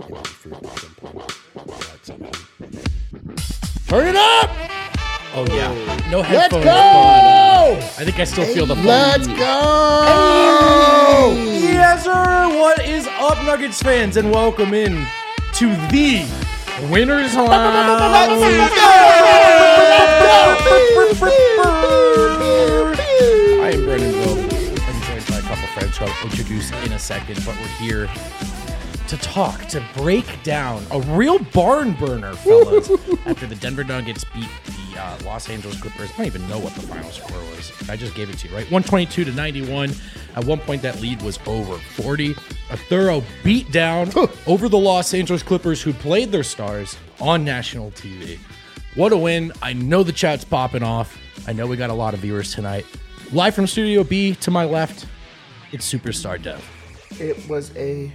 Turn it up! Oh, yeah. No Let's headphones. go! I think I still feel the fun. Let's go! Yes, sir. What is up, Nuggets fans? And welcome in to the Winners Lounge. I am Brendan Vogt. I'm joined by a couple friends who I'll introduce in a second, but we're here to talk, to break down a real barn burner, fellas, after the Denver Nuggets beat the Los Angeles Clippers. I don't even know what the final score was. I just gave it to you, right? 122-91. At one point, that lead was over 40. A thorough beatdown over the Los Angeles Clippers, who played their stars on national TV. What a win. I know the chat's popping off. I know we got a lot of viewers tonight. Live from Studio B, to my left, it's Superstar Dev. It was a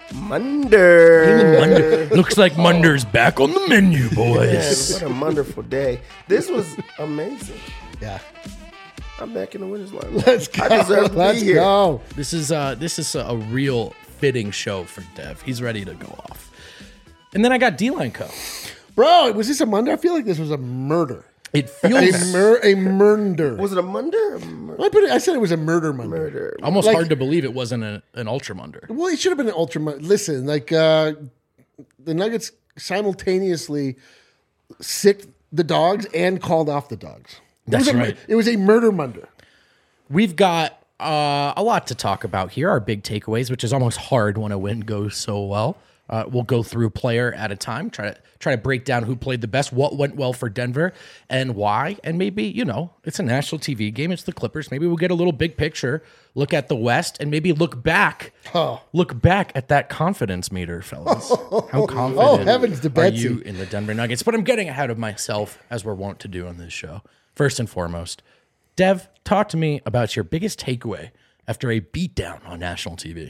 Munder. Looks like Munder's back on the menu, boys. Yes, what a wonderful day. This was amazing. Yeah. I'm back in the winner's line. Let's go. I deserve to Let's be here. go. This is a real fitting show for Dev. He's ready to go off. And then I got D-Line Co. Bro, was this a Monday? I feel like this was a murder. It feels A murder. Was it a Munder? I said it was a murder Monday. Murder. almost like- hard to believe it wasn't an Ultra Munder. Well, it should have been an ultra. Listen, the Nuggets simultaneously sicked the dogs and called off the dogs. That's right. It was a murder Monday. We've got a lot to talk about here. Our big takeaways, which is almost hard when a win goes so well. We'll go through player at a time, try to break down who played the best, what went well for Denver, and why. And maybe, it's a national TV game. It's the Clippers. Maybe we'll get a little big picture, look at the West, and maybe look back at that confidence meter, fellas. How confident heavens to are Betsy. you in the Denver Nuggets? But I'm getting ahead of myself, as we're wont to do on this show. First and foremost, Dev, talk to me about your biggest takeaway after a beatdown on national TV.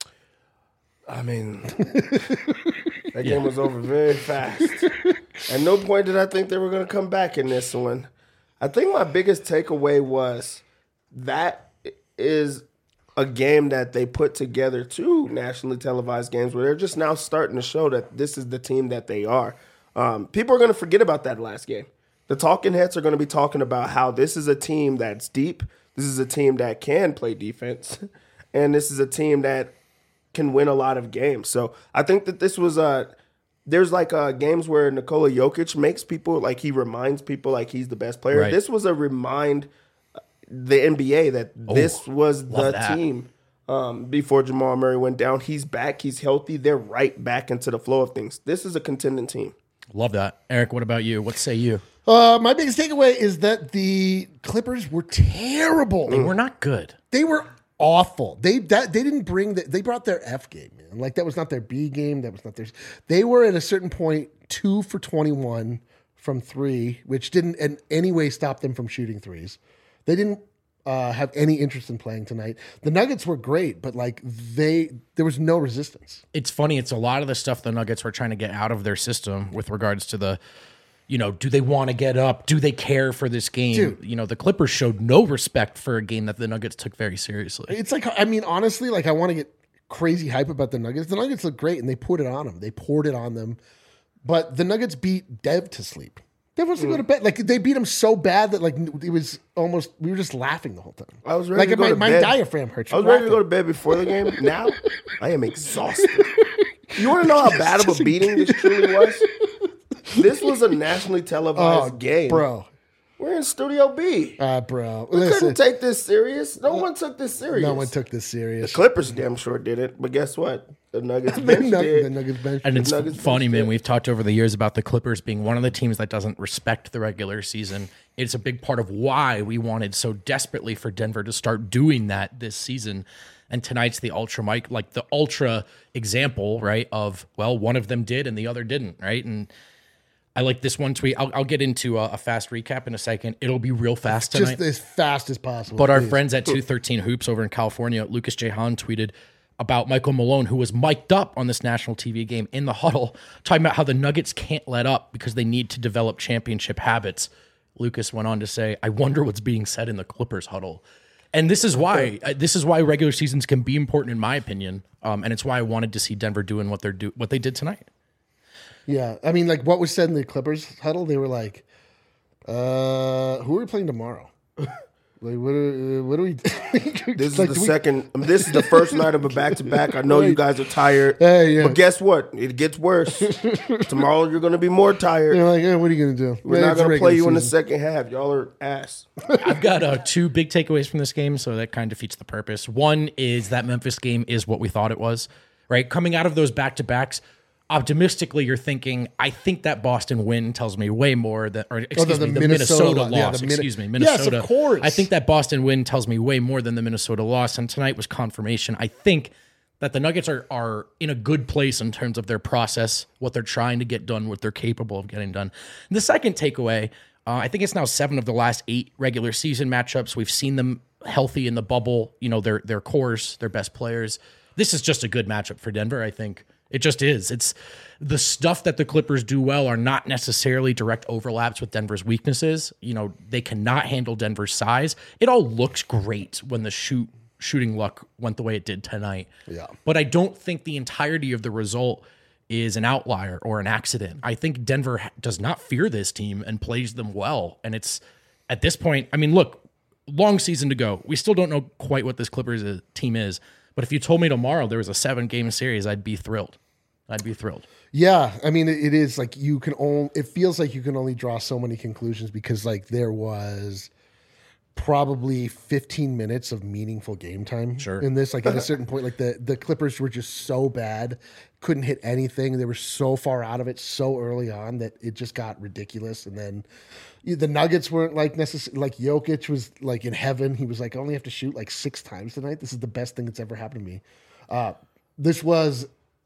I mean, that game was over very fast. At no point did I think they were going to come back in this one. I think my biggest takeaway was that is a game that they put together, two nationally televised games, where they're just now starting to show that this is the team that they are. People are going to forget about that last game. The talking heads are going to be talking about how this is a team that's deep. This is a team that can play defense. And this is a team that can win a lot of games. So I think that this was there's games where Nikola Jokic makes people, like he reminds people like he's the best player. Right. This was a remind the NBA that this was the that. team before Jamal Murray went down. He's back. He's healthy. They're right back into the flow of things. This is a contending team. Love that. Eric, what about you? What say you? My biggest takeaway is that the Clippers were terrible. They were not good. They were awful. They didn't bring they brought their F game, man. Like that was not their B game. That was not theirs. They were at a certain point 2 for 21 from 3, which didn't in any way stop them from shooting threes. They didn't have any interest in playing tonight. The Nuggets were great, but there was no resistance. It's funny. It's a lot of the stuff the Nuggets were trying to get out of their system with regards to the, do they want to get up? Do they care for this game? Dude. The Clippers showed no respect for a game that the Nuggets took very seriously. It's honestly, I want to get crazy hype about the Nuggets. The Nuggets look great, and they put it on them. They poured it on them. But the Nuggets beat Dev to sleep. Dev wants to go to bed. They beat him so bad that it was almost, we were just laughing the whole time. I was ready to go to my bed. diaphragm hurts. I was ready to go to bed before the game. Now I am exhausted. You want to know how bad of a beating this truly was? This was a nationally televised game. Bro. We're in Studio B. Bro. We Listen, couldn't take this serious. No one took this serious. no one took this serious. Clippers damn sure did it, but guess what? The Nuggets The bench did. The Nuggets bench. And it's Nuggets funny, bench man. did. We've talked over the years about the Clippers being one of the teams that doesn't respect the regular season. It's a big part of why we wanted so desperately for Denver to start doing that this season. And tonight's the ultra example, right? Of, well, one of them did and the other didn't, right? And I like this one tweet. I'll get into a fast recap in a second. It'll be real fast tonight. Just as fast as possible. But our please. friends at 213 Hoops over in California, Lucas J. Hahn, tweeted about Michael Malone, who was mic'd up on this national TV game in the huddle, talking about how the Nuggets can't let up because they need to develop championship habits. Lucas went on to say, I wonder what's being said in the Clippers huddle. And this is why regular seasons can be important in my opinion. And it's why I wanted to see Denver doing what they did tonight. Yeah. I mean, like what was said in the Clippers huddle, they were like, who are we playing tomorrow? Like, what are we This is this is the first night of a back-to-back. I know you guys are tired. Yeah. But guess what? It gets worse. Tomorrow you're going to be more tired. You're like, what are you going to do? We're not going to play you in the second half. Y'all are ass. I've got 2 big takeaways from this game, so that kind of defeats the purpose. One is that Memphis game is what we thought it was, right? Coming out of those back-to-backs, optimistically, you're thinking, I think that Boston win tells me way more than, or excuse me, the Minnesota loss. Minnesota. Yes, of course. I think that Boston win tells me way more than the Minnesota loss, and tonight was confirmation. I think that the Nuggets are in a good place in terms of their process, what they're trying to get done, what they're capable of getting done. And the second takeaway, I think it's now 7 of the last 8 regular season matchups. We've seen them healthy in the bubble, their cores, their best players. This is just a good matchup for Denver, I think. It just is. It's the stuff that the Clippers do well are not necessarily direct overlaps with Denver's weaknesses. They cannot handle Denver's size. It all looks great when the shooting luck went the way it did tonight. Yeah. But I don't think the entirety of the result is an outlier or an accident. I think Denver does not fear this team and plays them well. And it's at this point, I mean, look, long season to go. We still don't know quite what this Clippers team is. But if you told me tomorrow there was a 7-game series, I'd be thrilled. Yeah, I mean, it is like it feels like you can only draw so many conclusions because like there was probably 15 minutes of meaningful game time in this. Like at a certain point, like the Clippers were just so bad, couldn't hit anything. They were so far out of it so early on that it just got ridiculous. And then the Nuggets weren't like necessarily, like Jokic was like in heaven. He was like, I only have to shoot like 6 times tonight. This is the best thing that's ever happened to me. This was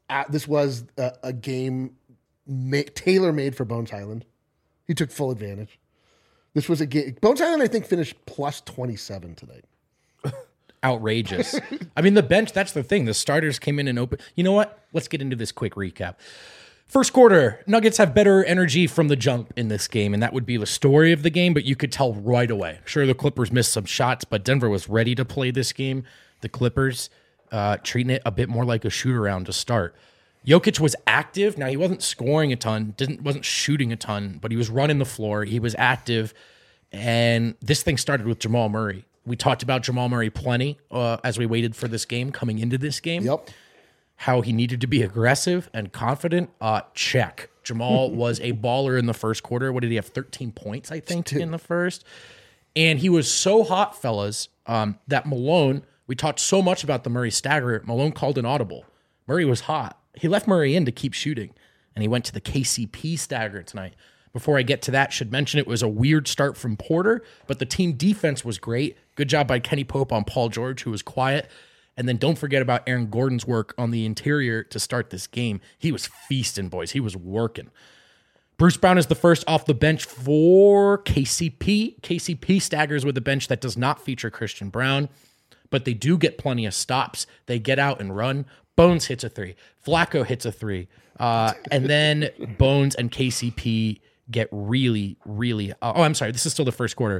a game tailor-made for Bones Highland. He took full advantage. This was a game. Bones Highland, I think, finished plus 27 tonight. Outrageous. I mean, the bench, that's the thing. The starters came in and opened. You know what? Let's get into this quick recap. First quarter, Nuggets have better energy from the jump in this game, and that would be the story of the game, but you could tell right away. Sure, the Clippers missed some shots, but Denver was ready to play this game. The Clippers treating it a bit more like a shoot-around to start. Jokic was active. Now, he wasn't scoring a ton, wasn't shooting a ton, but he was running the floor. He was active, and this thing started with Jamal Murray. We talked about Jamal Murray plenty as we waited for this game, coming into this game. Yep. How he needed to be aggressive and confident. Check. Jamal was a baller in the first quarter. What did he have? 13 points, I think, in the first. And he was so hot, fellas, that Malone, we talked so much about the Murray stagger, Malone called an audible. Murray was hot. He left Murray in to keep shooting, and he went to the KCP stagger tonight. Before I get to that, should mention it was a weird start from Porter, but the team defense was great. Good job by Kenny Pope on Paul George, who was quiet. And then don't forget about Aaron Gordon's work on the interior to start this game. He was feasting, boys. He was working. Bruce Brown is the first off the bench for KCP. KCP staggers with a bench that does not feature Christian Brown, but they do get plenty of stops. They get out and run. Bones hits a 3. Flacco hits a 3. And then Bones and KCP get really, really... I'm sorry. This is still the first quarter.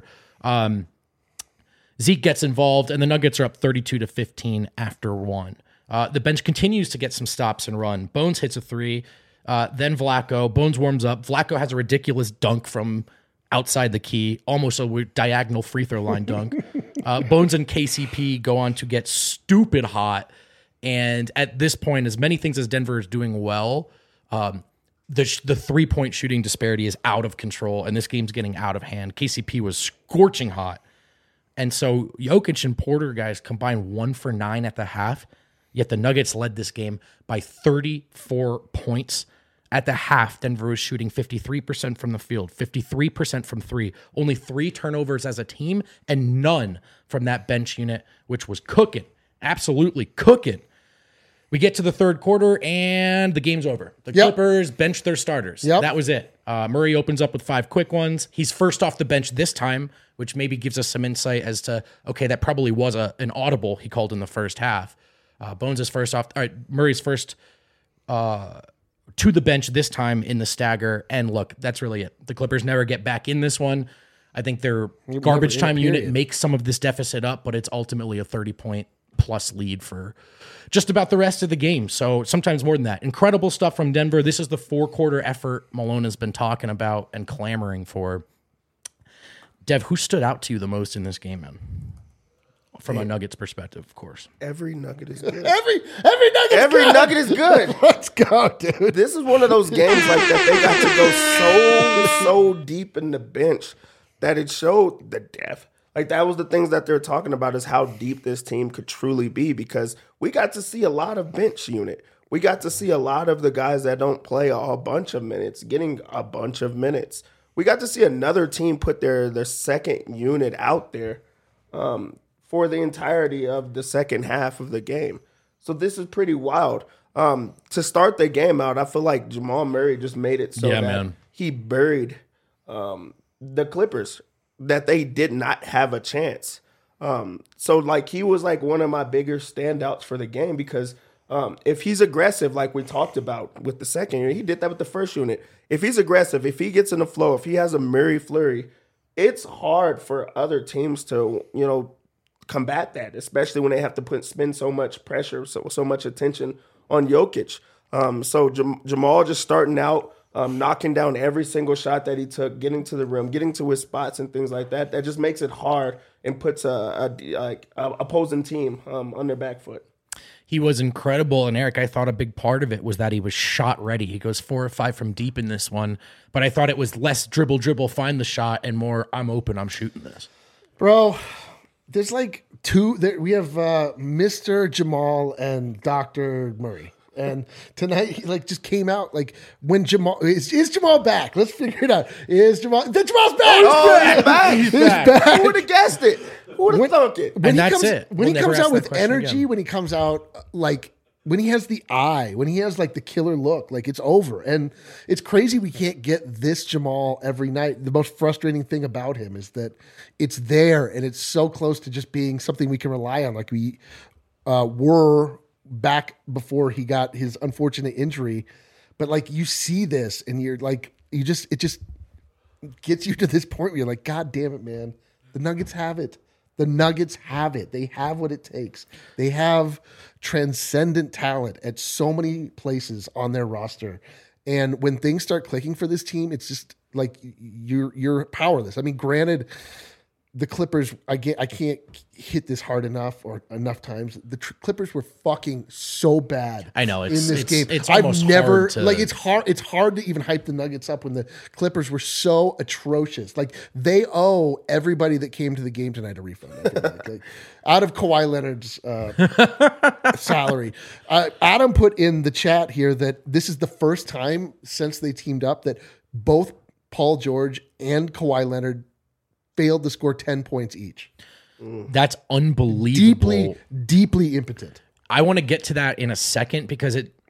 Zeke gets involved, and the Nuggets are up 32-15 after 1. The bench continues to get some stops and run. Bones hits a 3. Then Flacco. Bones warms up. Flacco has a ridiculous dunk from outside the key, almost a weird diagonal free throw line dunk. Bones and KCP go on to get stupid hot. And at this point, as many things as Denver is doing well, the 3-point shooting disparity is out of control, and this game's getting out of hand. KCP was scorching hot. And so Jokic and Porter, guys, combined 1 for 9 at the half, yet the Nuggets led this game by 34 points. At the half, Denver was shooting 53% from the field, 53% from 3, only 3 turnovers as a team, and none from that bench unit, which was cooking, absolutely cooking. We get to the third quarter, and the game's over. The Clippers bench their starters. That was it. Murray opens up with 5 quick ones. He's first off the bench this time, which maybe gives us some insight as to, okay, that probably was an audible he called in the first half. Bones is first off. All right, Murray's first to the bench this time in the stagger. And look, that's really it. The Clippers never get back in this one. I think their Never garbage in a time unit period. makes some of this deficit up, but it's ultimately a 30-point plus lead for just about the rest of the game. So sometimes more than that. Incredible stuff from Denver. This is the 4-quarter effort Malone has been talking about and clamoring for. Dev, who stood out to you the most in this game, man? From a Nuggets perspective, of course. Every Nugget is good. Every Nugget's Every good. Nugget is good. Let's go, dude. This is one of those games like that. They got to go so deep in the bench that it showed the depth. Like that was the things that they're talking about is how deep this team could truly be because we got to see a lot of bench unit. We got to see a lot of the guys that don't play a bunch of minutes getting a bunch of minutes. We got to see another team put their second unit out there for the entirety of the second half of the game. So this is pretty wild. To start the game out, I feel like Jamal Murray just made it so that he buried the Clippers, that they did not have a chance. So like he was like one of my bigger standouts for the game because if he's aggressive, like we talked about with the second unit, he did that with the first unit. If he's aggressive, if he gets in the flow, if he has a Murray flurry, it's hard for other teams to, combat that, especially when they have to spend so much pressure, so much attention on Jokic. So Jamal just starting out, knocking down every single shot that he took, getting to the rim, getting to his spots and things like that. That just makes it hard and puts a opposing team on their back foot. He was incredible, and Eric, I thought a big part of it was that he was shot ready. He goes 4 or 5 from deep in this one, but I thought it was less dribble, find the shot, and more I'm open, I'm shooting this. Bro, there's like two. We have Mr. Jamal and Dr. Murray. And tonight, he just came out when Jamal is Jamal back? Let's figure it out. Is Jamal's back? He's back. He's back. Who would have guessed it? Who would have thunk it? And that's it. When he We'll never comes ask out that with question energy, again. when he comes out when he has the eye, when he has the killer look, it's over. And it's crazy we can't get this Jamal every night. The most frustrating thing about him is that it's there and it's so close to just being something we can rely on, like we were back before he got his unfortunate injury. But you see this and you're it just gets you to this point where you're like, God damn it, man. The Nuggets have it. The Nuggets have it. They have what it takes. They have transcendent talent at so many places on their roster. And when things start clicking for this team, it's just you're powerless. I mean, granted, the Clippers, I can't hit this hard enough or enough times. The Clippers were fucking so bad. I know in this game. It's almost never hard to, it's hard to even hype the Nuggets up when the Clippers were so atrocious. They owe everybody that came to the game tonight a refund. I feel like. Out of Kawhi Leonard's salary. Adam put in the chat here that this is the first time since they teamed up that both Paul George and Kawhi Leonard failed to score 10 points each. That's unbelievable. Deeply impotent. I want to get to that in a second because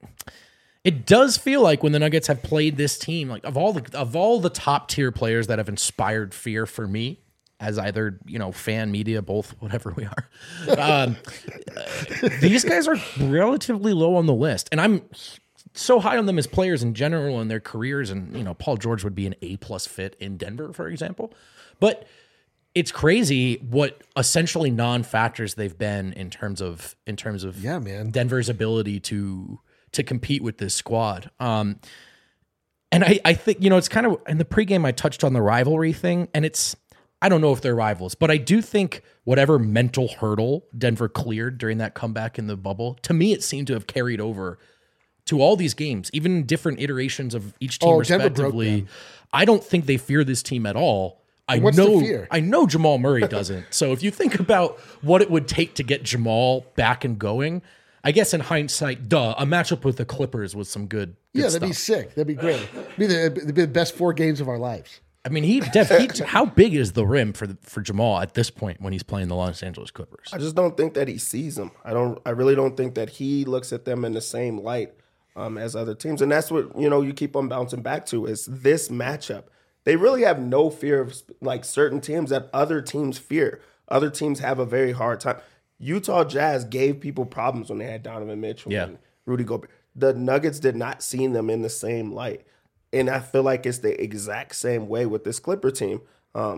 it does feel like when the Nuggets have played this team, of all the top tier players that have inspired fear for me as either fan, media, both, whatever we are, these guys are relatively low on the list, and I'm so high on them as players in general in their careers. And Paul George would be an A+ fit in Denver, for example. But it's crazy what essentially non-factors they've been in terms of Yeah, man. Denver's ability to compete with this squad. And I think, it's kind of in the pregame I touched on the rivalry thing, and I don't know if they're rivals, but I do think whatever mental hurdle Denver cleared during that comeback in the bubble, to me it seemed to have carried over to all these games, even different iterations of each team respectively. I don't think they fear this team at all. I know Jamal Murray doesn't. So if you think about what it would take to get Jamal back and going, I guess in hindsight, a matchup with the Clippers was some good That'd stuff. be sick. That'd be great. It'd be the best 4 games of our lives. I mean, how big is the rim for Jamal at this point when he's playing the Los Angeles Clippers? I just don't think that he sees them. I really don't think that he looks at them in the same light as other teams. And that's what, you keep on bouncing back to is this matchup. They really have no fear of certain teams that other teams fear. Other teams have a very hard time. Utah Jazz gave people problems when they had Donovan Mitchell and Rudy Gobert. The Nuggets did not see them in the same light. And I feel like it's the exact same way with this Clipper team.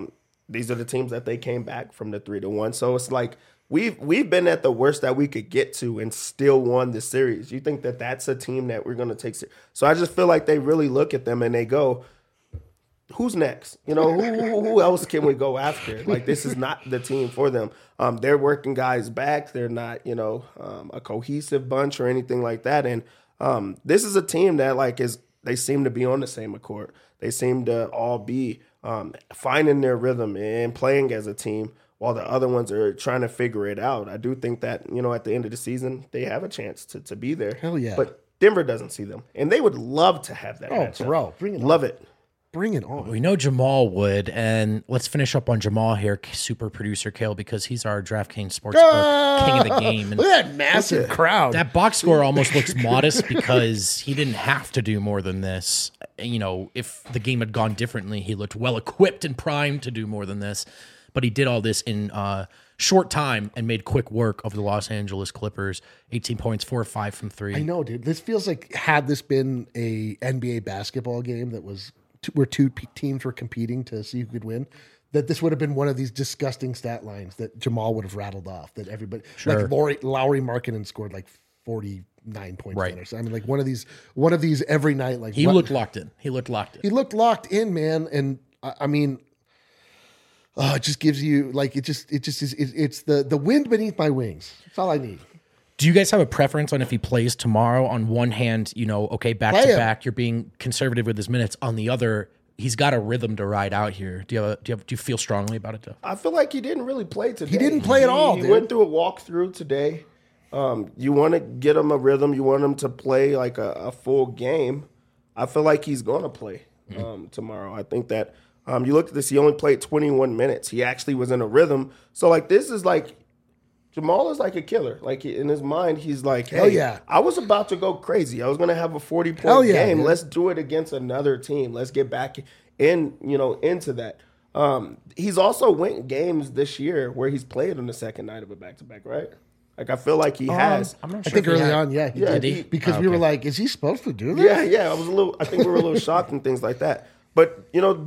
these are the teams that they came back from the 3-1. So it's like we've been at the worst that we could get to and still won the series. You think that that's a team that we're going to take? So I just feel like they really look at them and they go, who's next? You know, who else can we go after? Like, this is not the team for them. They're working guys back. They're not, you know, a cohesive bunch or anything like that. And this is a team that, like, they seem to be on the same accord. They seem to all be finding their rhythm and playing as a team while the other ones are trying to figure it out. I do think that, you know, at the end of the season, they have a chance to be there. Hell yeah. But Denver doesn't see them. And they would love to have that matchup. Bro, bring it on. Love it. Bring it on. We know Jamal would, and let's finish up on Jamal here, super producer Kale, because he's our DraftKings Sportsbook king of the game. And look at that massive crowd. that box score almost looks modest because he didn't have to do more than this. You know, if the game had gone differently, he looked well equipped and primed to do more than this. But he did all this in short time and made quick work of the Los Angeles Clippers. 18 points, 4 or 5 from 3. I know, dude. This feels like, had this been a NBA basketball game that was where two teams were competing to see who could win, that this would have been one of these disgusting stat lines that Jamal would have rattled off. That everybody, Sure. like Lowry Markkanen scored like 49 points. Right. Or so. I mean, like one of these every night. Like He looked locked in. He looked locked in, man. And I mean, it just gives you like it's the wind beneath my wings. That's all I need. Do you guys have a preference on if he plays tomorrow? On one hand, you know, okay, back to back, you're being conservative with his minutes. On the other, he's got a rhythm to ride out here. Do you feel strongly about it, though? I feel like he didn't really play today. He didn't play at all, He dude. went through a walkthrough today. You want to get him a rhythm. You want him to play like a full game. I feel like he's going to play tomorrow. I think that you look at this, he only played 21 minutes. He actually was in a rhythm. So, like, this is like, Jamal is like a killer. Like, in his mind, he's like, hey, Hell yeah. I was about to go crazy. I was going to have a 40-point yeah, game. man. Let's do it against another team. Let's get back into that. He's also went games this year where he's played on the second night of a back-to-back, right? Like, I feel like he has. I'm not I sure. think if he early had- on, yeah, he Yeah, did. he- Because we were like, is he supposed to do this? Yeah. I think we were a little shocked and things like that. But, you know,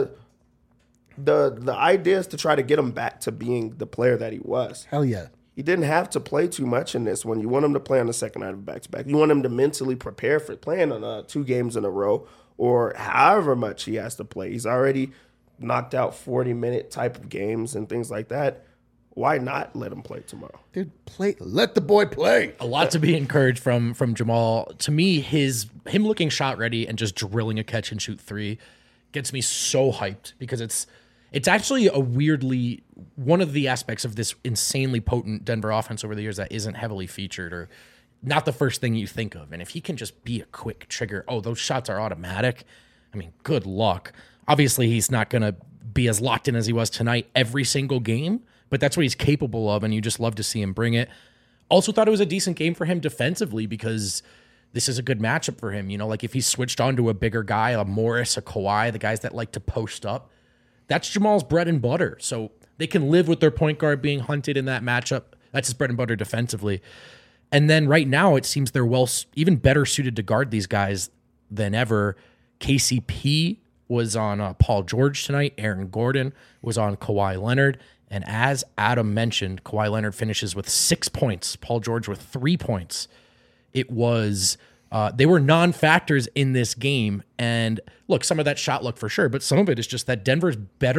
the idea is to try to get him back to being the player that he was. Hell yeah. He didn't have to play too much in this one. You want him to play on the second night of back-to-back. You want him to mentally prepare for playing on 2 games in a row or however much he has to play. He's already knocked out 40-minute type of games and things like that. Why not let him play tomorrow? Dude, let the boy play. A lot to be encouraged from Jamal. To me, him looking shot ready and just drilling a catch and shoot 3 gets me so hyped because it's actually a weirdly one of the aspects of this insanely potent Denver offense over the years that isn't heavily featured or not the first thing you think of. And if he can just be a quick trigger, those shots are automatic. I mean, good luck. Obviously, he's not going to be as locked in as he was tonight every single game, but that's what he's capable of, and you just love to see him bring it. Also thought it was a decent game for him defensively because this is a good matchup for him. You know, like if he switched on to a bigger guy, a Morris, a Kawhi, the guys that like to post up, that's Jamal's bread and butter. So they can live with their point guard being hunted in that matchup. That's his bread and butter defensively. And then right now it seems they're even better suited to guard these guys than ever. KCP was on Paul George tonight. Aaron Gordon was on Kawhi Leonard. And as Adam mentioned, Kawhi Leonard finishes with 6 points. Paul George with 3 points. It was they were non-factors in this game. And look, some of that shot luck for sure, but some of it is just that Denver's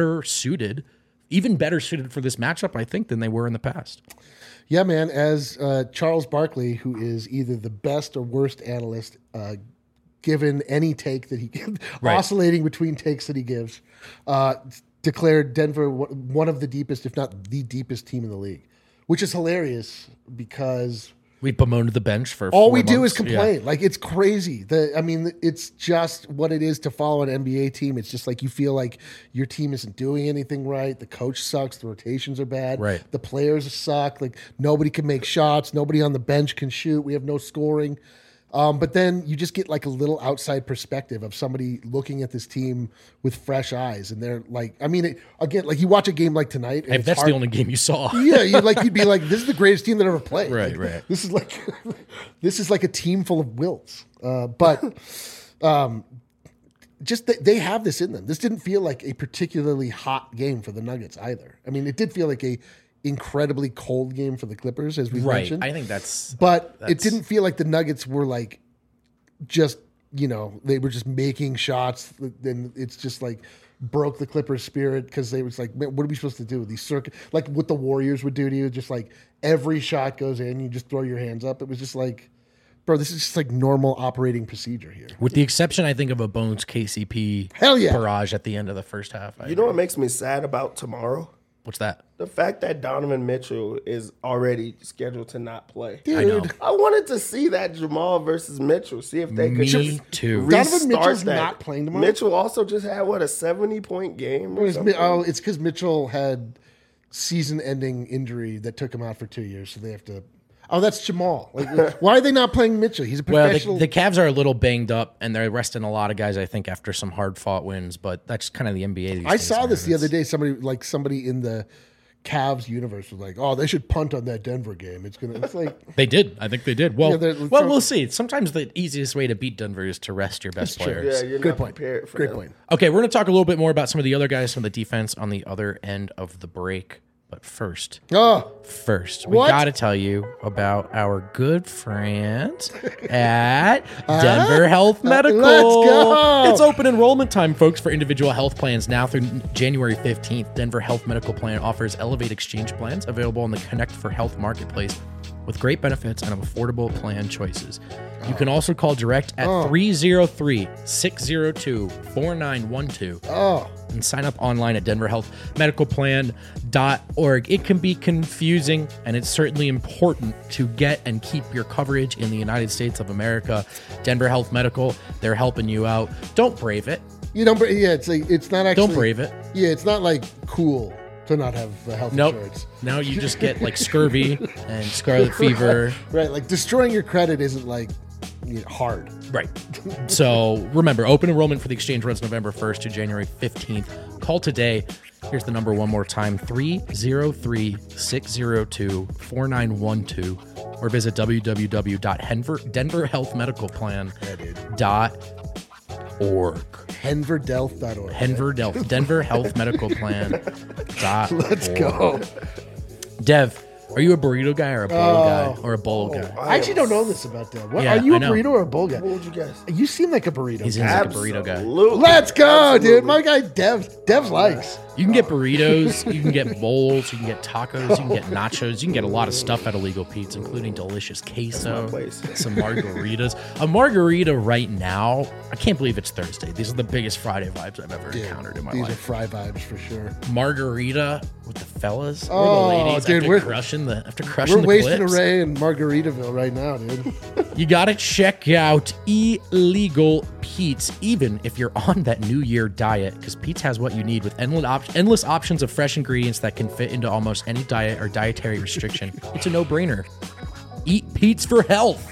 even better suited for this matchup, I think, than they were in the past. Yeah, man. As Charles Barkley, who is either the best or worst analyst, given any take that he Right. oscillating between takes that he gives, declared Denver one of the deepest, if not the deepest team in the league, which is hilarious because We bemoaned the bench for all 4 we do months. is complain. Like, it's crazy. It's just what it is to follow an NBA team. It's just like you feel like your team isn't doing anything right. The coach sucks. The rotations are bad. Right. The players suck. Like, nobody can make shots. Nobody on the bench can shoot. We have no scoring. But then you just get like a little outside perspective of somebody looking at this team with fresh eyes. And they're like, again, like you watch a game like tonight. And If it's that's hard- the only game you saw. yeah, you'd be like, this is the greatest team that ever played. Right, Like, right. This is like a team full of wilts. But just they have this in them. This didn't feel like a particularly hot game for the Nuggets either. I mean, it did feel like a incredibly cold game for the Clippers, as we mentioned. I think that's it didn't feel like the Nuggets were like just, they were just making shots. Then it's just like broke the Clippers' spirit because they was like, man, what are we supposed to do with these like what the Warriors would do to you? Just like every shot goes in, you just throw your hands up. It was just like, bro, this is just like normal operating procedure here. With the exception, I think, of a Bones KCP barrage at the end of the first half. You know what makes me sad about tomorrow? What's that? The fact that Donovan Mitchell is already scheduled to not play. Dude, I know. I wanted to see that Jamal versus Mitchell. See if they could Me too. Donovan Mitchell's that. not playing tomorrow? Mitchell also just had, a 70-point game or something? It's because Mitchell had season-ending injury that took him out for 2 years, so they have to. Oh, that's Jamal. Like, why are they not playing Mitchell? He's a professional. Well, the Cavs are a little banged up, and they're resting a lot of guys, I think, after some hard-fought wins. But that's kind of the NBA these days. I saw this the other day. Somebody in the Cavs universe was like, "Oh, they should punt on that Denver game. It's like They did. I think they did. Well, Yeah, we'll see. Sometimes the easiest way to beat Denver is to rest your best players. Yeah, you're good not point. prepared for Great them. point. Okay, we're going to talk a little bit more about some of the other guys from the defense on the other end of the break. But first, we What? got to tell you about our good friends at Denver Health Medical. Let's go. It's open enrollment time, folks, for individual health plans now through January 15th. Denver Health Medical Plan offers Elevate Exchange plans available on the Connect for Health marketplace with great benefits and affordable plan choices. You can also call direct at 303-602-4912 and sign up online at denverhealthmedicalplan.org. It can be confusing, and it's certainly important to get and keep your coverage in the United States of America. Denver Health Medical, they're helping you out. Don't brave it. It's not actually. Don't brave it. Yeah, it's not like cool to not have health insurance. Now you just get like scurvy and scarlet fever. Right, like destroying your credit isn't like hard. Right. So remember, open enrollment for the exchange runs November 1st to January 15th. Call today. Here's the number one more time, 303-602-4912, or visit www.denverhealthmedicalplan.org. Henverdelf.org. Denver Health Medical Plan.org. Let's go. Dev, are you a burrito guy or a bowl guy or a bowl guy? I actually don't know this about that. Yeah, are you I a know. burrito or a bowl guy? What would you guess? You seem like a burrito He guy. seems like a burrito guy. Let's go, Absolutely. dude. My guy Dev likes. You can get burritos, you can get bowls, you can get tacos, you can get nachos, you can get a lot of stuff at Illegal Pete's, including delicious queso, place. some margaritas. A margarita right now, I can't believe it's Thursday. These are the biggest Friday vibes I've ever encountered in my These are life. fry vibes for sure. Margarita with the fellas, Oh, or the ladies, dude, after we're crushing We're the wasting clips. array in Margaritaville right now, dude. You got to check out Illegal Pete's, even if you're on that New Year diet, because Pete's has what you need with endless options of fresh ingredients that can fit into almost any diet or dietary restriction. It's a no-brainer. Eat Pete's for health.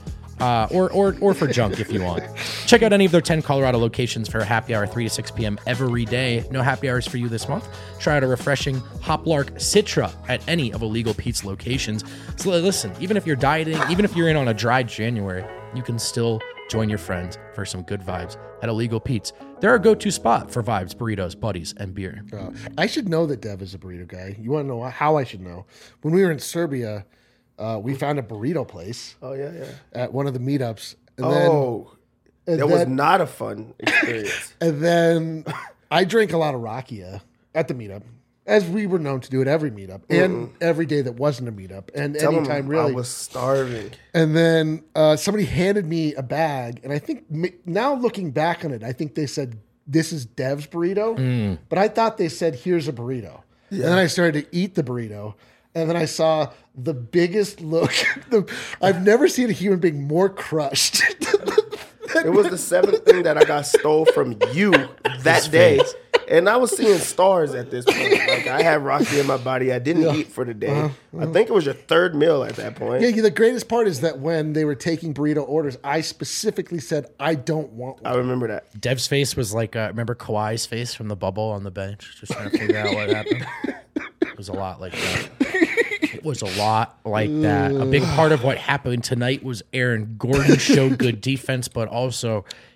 Or for junk if you want. Check out any of their 10 Colorado locations for a happy hour 3 to 6 p.m. every day. No happy hours for you this month. Try out a refreshing Hoplark Citra at any of Illegal Pete's locations. So listen, even if you're dieting, even if you're in on a dry January, you can still join your friends for some good vibes at Illegal Pete's. They're a go-to spot for vibes, burritos, buddies, and beer. I should know that Dev is a burrito guy. You want to know how I should know? When we were in Serbia, we found a burrito place Oh, yeah. at one of the meetups. And That was not a fun experience. And then I drank a lot of rakia at the meetup, as we were known to do at every meetup, and every day that wasn't a meetup, and Tell him anytime really. I was starving. And then somebody handed me a bag, and I think now looking back on it, I think they said, "This is Dev's burrito," but I thought they said, "Here's a burrito." And then I started to eat the burrito, and then I saw the biggest look. I've never seen a human being more crushed. It was the seventh thing that I got stole from you that day. And I was seeing stars at this point. Like, I had Rocky in my body. I didn't eat for the day. I think it was your third meal at that point. Yeah, the greatest part is that when they were taking burrito orders, I specifically said, "I don't want one." I remember that. Dev's face was like, remember Kawhi's face from the bubble on the bench? Just trying to figure out what happened. It was a lot like that. It was a lot like that. A big part of what happened tonight was Aaron Gordon showed good defense, but also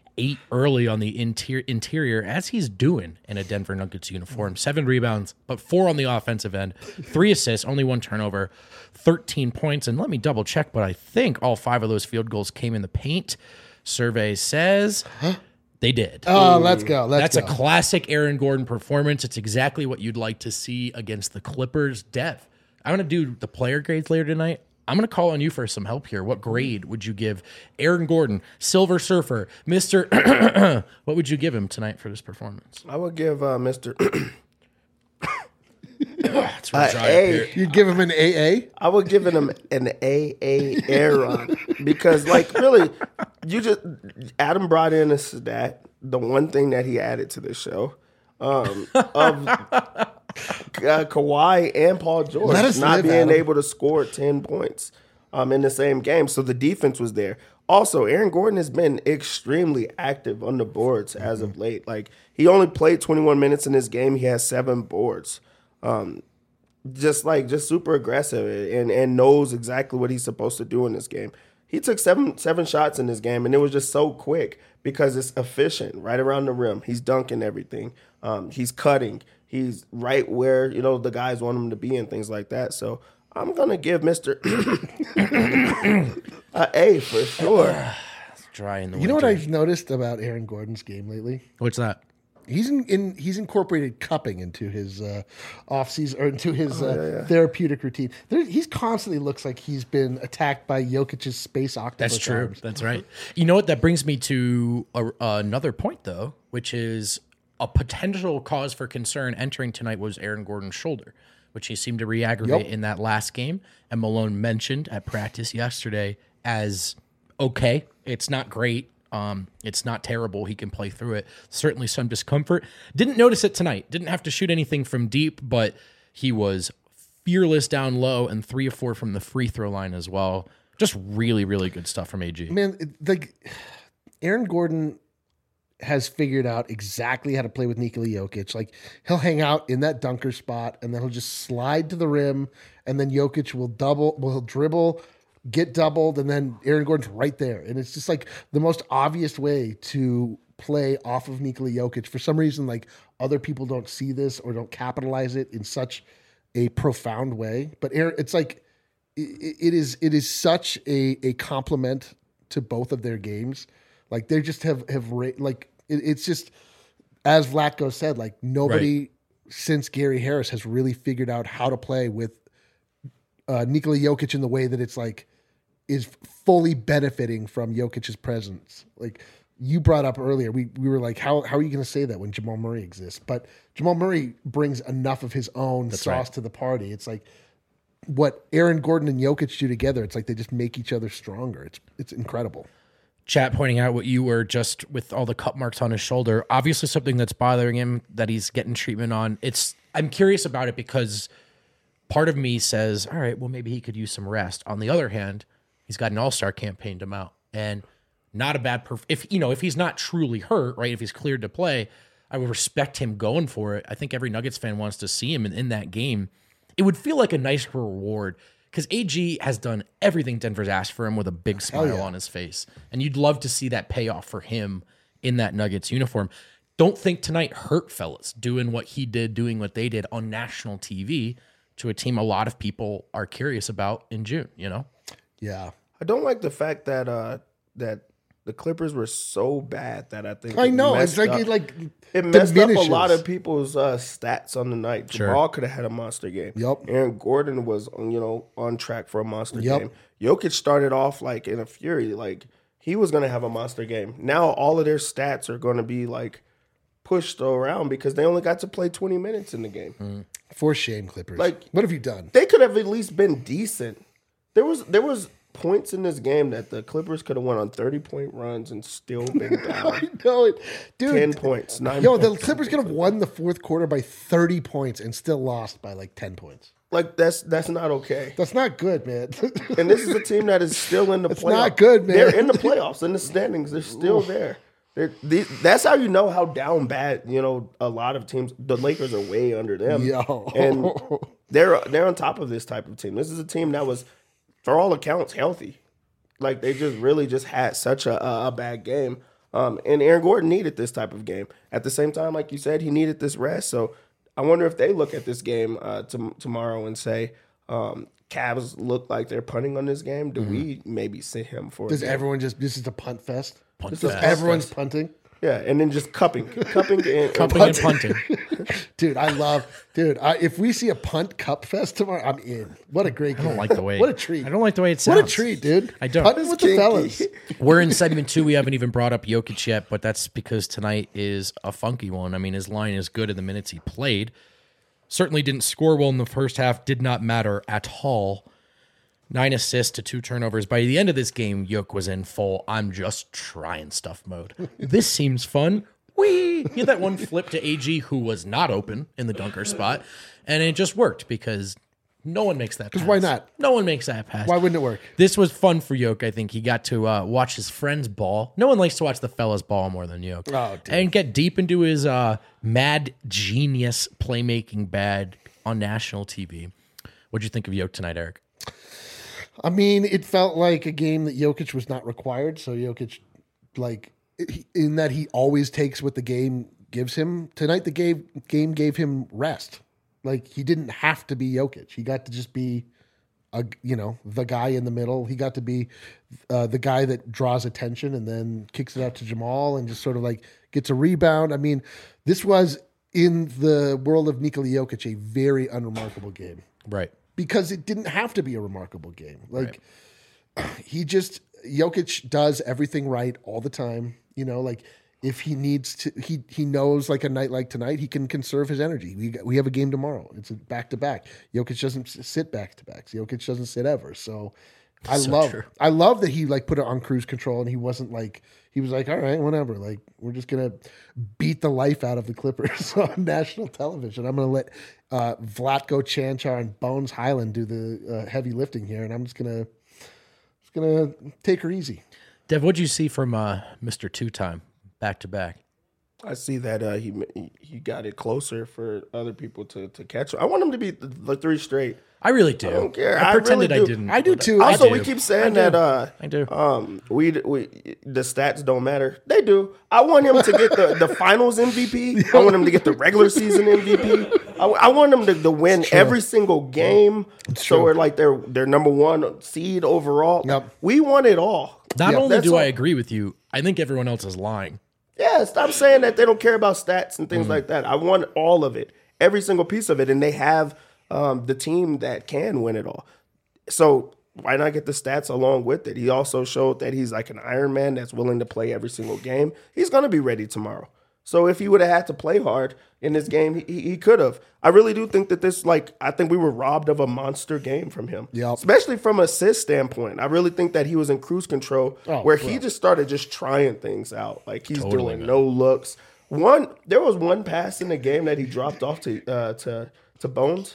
8 early on the interior, as he's doing in a Denver Nuggets uniform. 7 rebounds, but 4 on the offensive end, 3 assists, only 1 turnover, 13 points. And let me double check, but I think all 5 of those field goals came in the paint. Survey says they did. Oh, let's go. That's a classic Aaron Gordon performance. It's exactly what you'd like to see against the Clippers. Dev, I'm going to do the player grades later tonight. I'm going to call on you for some help here. What grade would you give Aaron Gordon, Silver Surfer, Mr. What would you give him tonight for this performance? I would give Mr. It's real dry up A. here. You'd give him an AA? I would give him an AA Aaron because, like, really, Adam brought in a stat, the one thing that he added to the show, of Kawhi and Paul George Let us not live, being Adam. able to score 10 points in the same game. So the defense was there. Also, Aaron Gordon has been extremely active on the boards as of late. Like, he only played 21 minutes in this game. He has 7 boards. Just super aggressive and knows exactly what he's supposed to do in this game. He took seven shots in this game, and it was just so quick because it's efficient, right around the rim. He's dunking everything. He's cutting. He's right where, the guys want him to be and things like that. So I'm going to give Mr. a A for sure. It's dry in the You know what winter. I've noticed about Aaron Gordon's game lately? What's that? He's incorporated cupping into his off-season or into his therapeutic routine. He's constantly looks like he's been attacked by Jokic's space octopus. That's true. arms. That's right. You know what? That brings me to another point, though, which is a potential cause for concern entering tonight was Aaron Gordon's shoulder, which he seemed to re-aggravate in that last game. And Malone mentioned at practice yesterday as okay. It's not great. It's not terrible. He can play through it. Certainly some discomfort. Didn't notice it tonight. Didn't have to shoot anything from deep, but he was fearless down low and 3 of 4 from the free throw line as well. Just really, really good stuff from AG. Man, Aaron Gordon has figured out exactly how to play with Nikola Jokic. Like, he'll hang out in that dunker spot, and then he'll just slide to the rim, and then Jokic he'll dribble, get doubled, and then Aaron Gordon's right there. And it's just like the most obvious way to play off of Nikola Jokic. For some reason, like, other people don't see this or don't capitalize it in such a profound way. But Aaron, it's like it is such a compliment to both of their games. Like, they just it's just, as Vlatko said, like, nobody since Gary Harris has really figured out how to play with Nikola Jokic in the way that it's like is fully benefiting from Jokic's presence. Like you brought up earlier, we were like, how are you going to say that when Jamal Murray exists? But Jamal Murray brings enough of his own sauce to the party. It's like what Aaron Gordon and Jokic do together. It's like they just make each other stronger. It's incredible. Chat pointing out what you were just with all the cut marks on his shoulder. Obviously something that's bothering him that he's getting treatment on. I'm curious about it because part of me says, all right, well, maybe he could use some rest. On the other hand, he's got an all-star campaign to mount and not a bad if he's not truly hurt, right? If he's cleared to play, I would respect him going for it. I think every Nuggets fan wants to see him in that game. It would feel like a nice reward because AG has done everything Denver's asked for him with a big smile on his face. And you'd love to see that payoff for him in that Nuggets uniform. Don't think tonight hurt, fellas, doing what he did, doing what they did on national TV to a team a lot of people are curious about in June, Yeah. I don't like the fact that that the Clippers were so bad that I think I know. It's like it messed up a diminishes. lot of people's stats on the night. Sure. Jamal could have had a monster game. Yep. Aaron Gordon was on track for a monster Yep. game. Jokic started off like in a fury, like he was going to have a monster game. Now all of their stats are going to be like pushed around because they only got to play 20 minutes in the game. For shame, Clippers. Like, what have you done? They could have at least been decent. There was points in this game that the Clippers could have won on 30-point runs and still been down. I know it. Dude. 10 points, 9 Yo, points. the Clippers could have won the fourth quarter by 30 points and still lost by like 10 points. Like that's not okay. That's not good, man. And this is a team that is still in the playoffs. not good, man. They're in the playoffs, in the standings. They're still there. That's how you know how down bad, a lot of teams, the Lakers are way under them. Yo. And they're on top of this type of team. This is a team that was, for all accounts, healthy. Like they just really just had such a bad game. And Aaron Gordon needed this type of game. At the same time, like you said, he needed this rest. So I wonder if they look at this game tomorrow and say, Cavs look like they're punting on this game. Do we maybe sit him for Does a game? everyone just, this is a punt fest? Punt This is fest. everyone's punting? Yeah, and then just cupping and Cupping and punting. Dude, if we see a punt cup fest tomorrow, I'm in. What a great game. I don't like the way. What a treat. I don't like the way it sounds. What a treat, dude. I don't. Punting with the fellas. We're in segment 2. We haven't even brought up Jokic yet, but that's because tonight is a funky one. I mean, his line is good in the minutes he played. Certainly didn't score well in the first half. Did not matter at all. 9 assists to 2 turnovers. By the end of this game, Jokic was in full I'm just trying stuff mode. This seems fun. Whee! He had that one flip to AG who was not open in the dunker spot, and it just worked because no one makes that pass. why not? No one makes that pass. Why wouldn't it work? This was fun for Jokic. I think he got to watch his friends ball. No one likes to watch the fellas ball more than Jokic. Oh, dude. And get deep into his mad genius playmaking bag on national TV. What'd you think of Jokic tonight, Eric? I mean, it felt like a game that Jokic was not required. So Jokic, in that he always takes what the game gives him. Tonight, the game gave him rest. Like, he didn't have to be Jokic. He got to just be, the guy in the middle. He got to be the guy that draws attention and then kicks it out to Jamal and just sort of gets a rebound. I mean, this was, in the world of Nikola Jokic, a very unremarkable game. Right. Because it didn't have to be a remarkable game. Jokic does everything right all the time. If he needs to, he knows a night like tonight, he can conserve his energy. We have a game tomorrow. It's a back-to-back. Jokic doesn't sit back-to-backs. Jokic doesn't sit ever. So I love that he put it on cruise control and he wasn't he was all right, whatever. We're just going to beat the life out of the Clippers on national television. I'm going to let Vlatko Cancar and Bones Highland do the heavy lifting here, and I'm just going to take her easy. Dev, what'd you see from Mr. Two-Time back-to-back? I see that he got it closer for other people to catch. I want him to be the 3 straight. I really do. I don't care. I pretended really I do. didn't. I do too. Also, we keep saying that I do. we the stats don't matter. They do. I want him to get the finals MVP. I want him to get the regular season MVP. I want him to win every single game. So we're they're number 1 seed overall. Yep. We want it all. Not only that's do I all. agree with you, I think everyone else is lying. Yeah, stop saying that they don't care about stats and things like that. I want all of it, every single piece of it, and they have the team that can win it all. So why not get the stats along with it? He also showed that he's like an Iron Man that's willing to play every single game. He's going to be ready tomorrow. So if he would have had to play hard in this game, he could have. I really do think that this, I think we were robbed of a monster game from him. Yep. Especially from an assist standpoint. I really think that he was in cruise control he just started just trying things out. He's Totally, doing man. no looks. There was one pass in the game that he dropped off to Bones.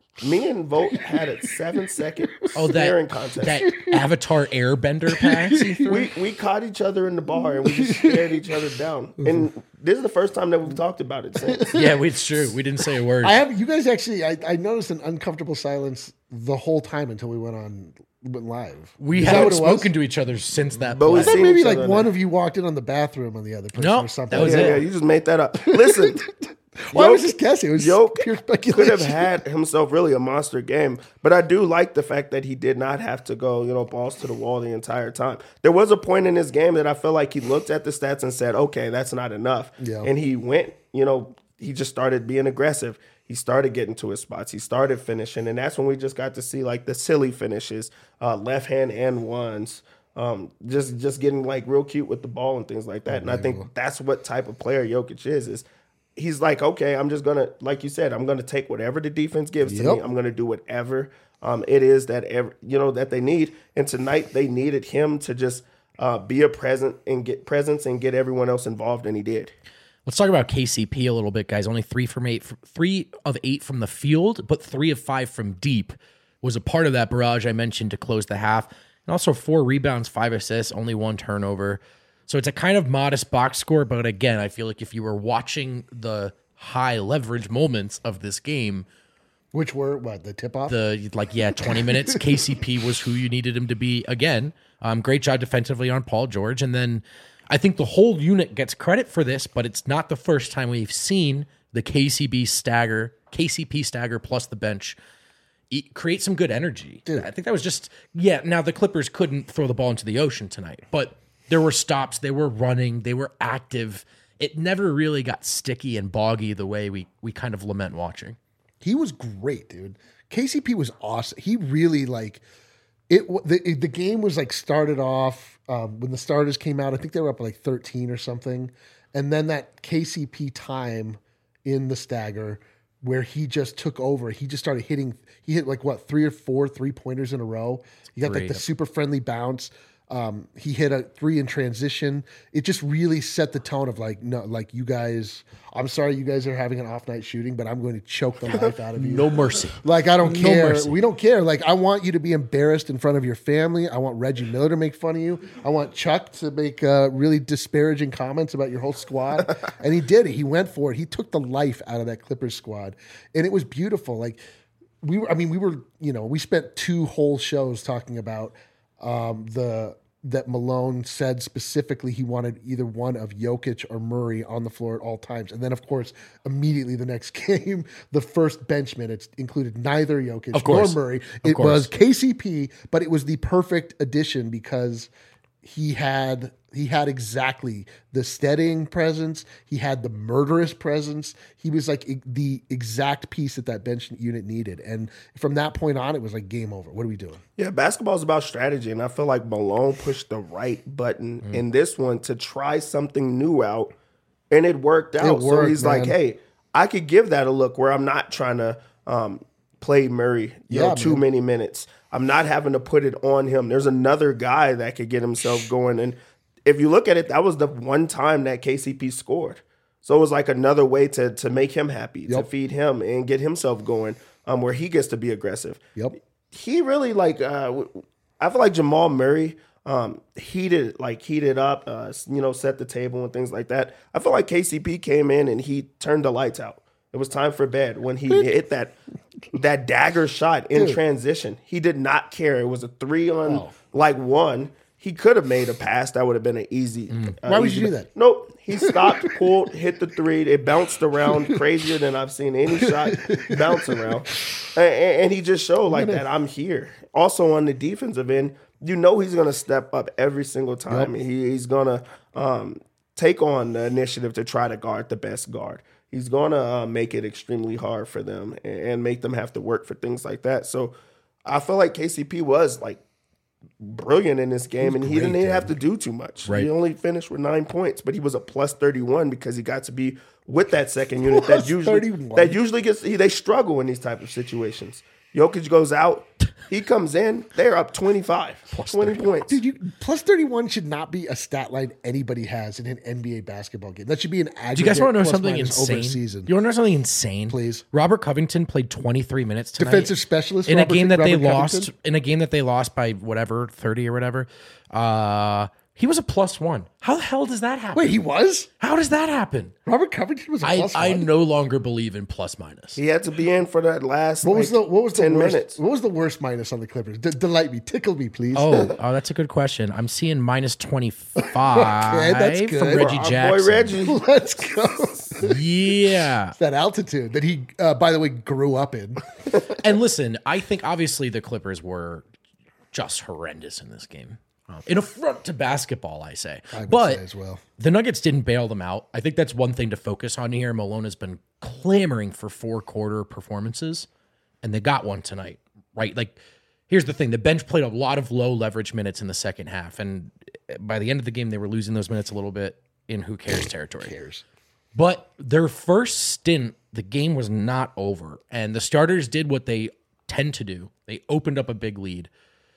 Me and Vogt had a 7-second staring contest. That Avatar Airbender pass he threw? We caught each other in the bar and we just stared each other down. And this is the first time that we've talked about it since. Yeah, it's true. We didn't say a word. You guys actually, I noticed an uncomfortable silence the whole time until we went live. We Is that haven't what it was? spoken to each other since that But we I play. thought seen maybe each other one now. of you walked in on the bathroom on the other person No, or something. that was Yeah, it. you just made that up. Listen. Well, I was just guessing. It was pure Jokic speculation. could have had himself really a monster game, but I do like the fact that he did not have to go, balls to the wall the entire time. There was a point in this game that I feel like he looked at the stats and said, okay, that's not enough. Yeah. And he went, he just started being aggressive. He started getting to his spots. He started finishing, and that's when we just got to see the silly finishes, left hand and ones. Just getting real cute with the ball and things like that. And I think that's what type of player Jokic is he's okay, I'm just going to, like you said, I'm going to take whatever the defense gives to me. I'm going to do whatever it is that, that they need. And tonight they needed him to just be a presence and get everyone else involved, and he did. Let's talk about KCP a little bit, guys. Only 3 of 8 from the field, but 3 of 5 from deep was a part of that barrage I mentioned to close the half. And also 4 rebounds, 5 assists, only 1 turnover. So it's a kind of modest box score, but again, I feel like if you were watching the high leverage moments of this game, Which were, the tip-off? 20 minutes, KCP was who you needed him to be again. Great job defensively on Paul George. And then I think the whole unit gets credit for this, but it's not the first time we've seen the KCP stagger plus the bench create some good energy. Dude. I think that was just, now the Clippers couldn't throw the ball into the ocean tonight, but there were stops, they were running, they were active. It never really got sticky and boggy the way we kind of lament watching. He was great, dude. KCP was awesome. He really the game was started off when the starters came out. I think they were up 13 or something, and then that KCP time in the stagger where he just took over. He just started hitting. He hit 3 or 4 3-pointers in a row. He got the super friendly bounce. He hit a 3 in transition. It just really set the tone of you guys. I'm sorry, you guys are having an off night shooting, but I'm going to choke the life out of you. No mercy. I don't care. Mercy. We don't care. I want you to be embarrassed in front of your family. I want Reggie Miller to make fun of you. I want Chuck to make really disparaging comments about your whole squad. And he did it. He went for it. He took the life out of that Clippers squad, and it was beautiful. We spent 2 whole shows talking about that Malone said specifically he wanted either one of Jokic or Murray on the floor at all times. And then, of course, immediately the next game, the first bench minutes included neither Jokic nor Murray. It was KCP, but it was the perfect addition because he had exactly the steadying presence. He had the murderous presence. He was the exact piece that bench unit needed. And from that point on, it was game over. What are we doing? Yeah, basketball is about strategy, and I feel like Malone pushed the right button in this one to try something new out, and it worked out. So he's like, hey, I could give that a look where I'm not trying to play Murray too many minutes. I'm not having to put it on him. There's another guy that could get himself going. And if you look at it, that was the one time that KCP scored. So it was another way to make him happy, to feed him and get himself going where he gets to be aggressive. Yep. He really I feel like Jamal Murray heated up, set the table and things like that. I feel like KCP came in and he turned the lights out. It was time for bed when he hit that dagger shot in transition. He did not care. It was a 3 on 1. He could have made a pass. That would have been an easy. Why would you do that? Nope. He stopped, pulled, hit the 3. It bounced around crazier than I've seen any shot bounce around. And he just showed that I'm here. Also on the defensive end, he's going to step up every single time. Yep. He's going to take on the initiative to try to guard the best guard. He's going to make it extremely hard for them and make them have to work for things like that. So I feel like KCP was brilliant in this game, and he didn't even have to do too much. Right. He only finished with 9 points, but he was a plus 31 because he got to be with that second unit that usually gets. They struggle in these type of situations. Jokic goes out, he comes in, they're up 25, plus 20 points. Dude, plus 31 should not be a stat line anybody has in an NBA basketball game. That should be an aggregate. Do you guys want to know something insane? Over season. You want to know something insane? Please. Robert Covington played 23 minutes tonight. Defensive specialist in a game that they lost by 30 or whatever. He was a plus 1. How the hell does that happen? Wait, he was? How does that happen? Robert Covington was a plus 1? I no longer believe in plus minus. He had to be in for that last what was the 10 worst, minutes. What was the worst minus on the Clippers? Delight me. Tickle me, please. Oh, that's a good question. I'm seeing minus 25 okay, that's good. from Reggie Jackson. Boy, Reggie. Let's go. Yeah. It's that altitude that he, by the way, grew up in. And listen, I think obviously the Clippers were just horrendous in this game. In affront to basketball, I say. But say as well. The Nuggets didn't bail them out. I think that's one thing to focus on here. Malone has been clamoring for 4-quarter performances, and they got one tonight, right? Here's the thing. The bench played a lot of low leverage minutes in the second half, and by the end of the game, they were losing those minutes a little bit in who cares territory. Who cares? But their first stint, the game was not over, and the starters did what they tend to do. They opened up a big lead.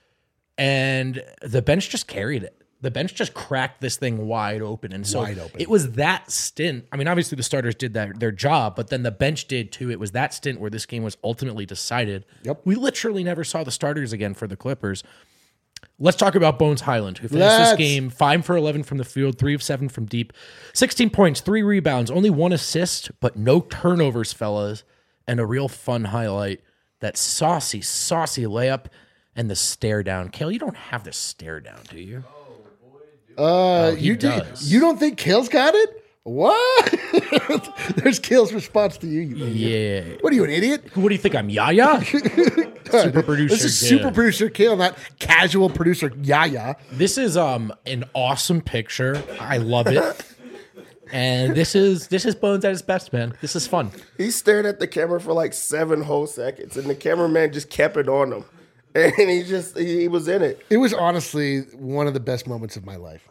And the bench just carried it. The bench just cracked this thing wide open. And so it was that stint. I mean, obviously the starters did their job, but then the bench did too. It was that stint where this game was ultimately decided. Yep. We literally never saw the starters again for the Clippers. Let's talk about Bones Highland, who finished this game 5 for 11 from the field, 3 of 7 from deep, 16 points, 3 rebounds, only 1 assist, but no turnovers, fellas. And a real fun highlight, that saucy layup and the stare down. Kale, you don't have the stare down, do you? Oh, boy, He you does. You don't think Kale's got it? What? There's Kale's response to you. Idiot. Yeah. What are you, an idiot? What do you think? I'm Yaya? Super producer. This is Kale. super producer Kale, not casual producer Yaya. This is an awesome picture. I love it. And this is Bones at his best, man. This is fun. He stared at the camera for like 7 whole seconds, and the cameraman just kept it on him. And he was in it. It was honestly one of the best moments of my life.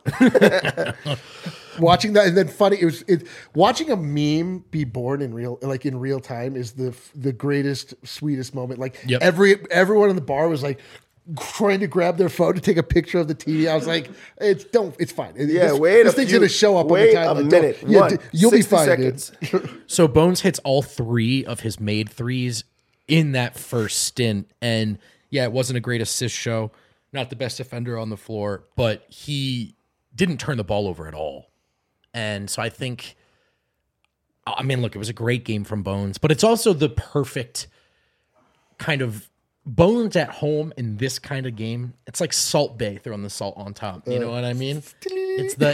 Watching that, and then funny, watching a meme be born in real time is the greatest, sweetest moment. Like Yep. everyone in the bar was like trying to grab their phone to take a picture of the TV. I was like, it's fine. Yeah, this thing's gonna show up wait over time. a Like, minute. yeah, One, you'll be 60 fine, seconds. dude. So Bones hits all 3 of his made threes in that first stint. And yeah, it wasn't a great assist show. Not the best defender on the floor, but he didn't turn the ball over at all. And so I think, I mean, look, it was a great game from Bones, but it's also the perfect kind of Bones at home in this kind of game. It's like Salt Bay throwing the salt on top. You know what I mean? It's the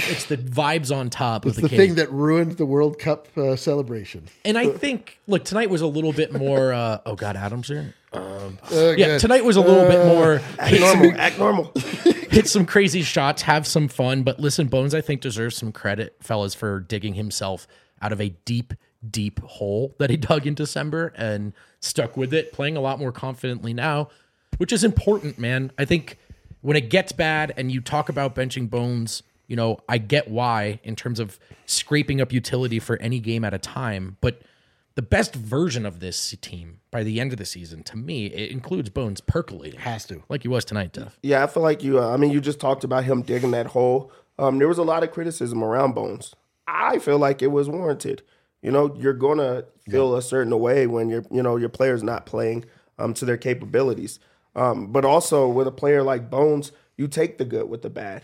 vibes on top It's of the cake. thing that ruined the World Cup celebration. And I think, look, tonight was a little bit more. Oh God, Adam's here. Yeah, Good. tonight was a little bit more. Act normal. Hit some crazy shots, have some fun. But listen, Bones, I think deserves some credit, fellas, for digging himself out of a deep, deep hole that he dug in December and stuck with it, playing a lot more confidently now, which is important, man. I think when it gets bad and you talk about benching Bones, you know, I get why in terms of scraping up utility for any game at a time, but the best version of this team by the end of the season, to me, it includes Bones percolating. Has to. Like he was tonight, Duff. Yeah, I feel like you just talked about him digging that hole. There was a lot of criticism around Bones. I feel like it was warranted. You know, you're going to feel a certain way when your player's not playing to their capabilities. But also with a player like Bones, you take the good with the bad.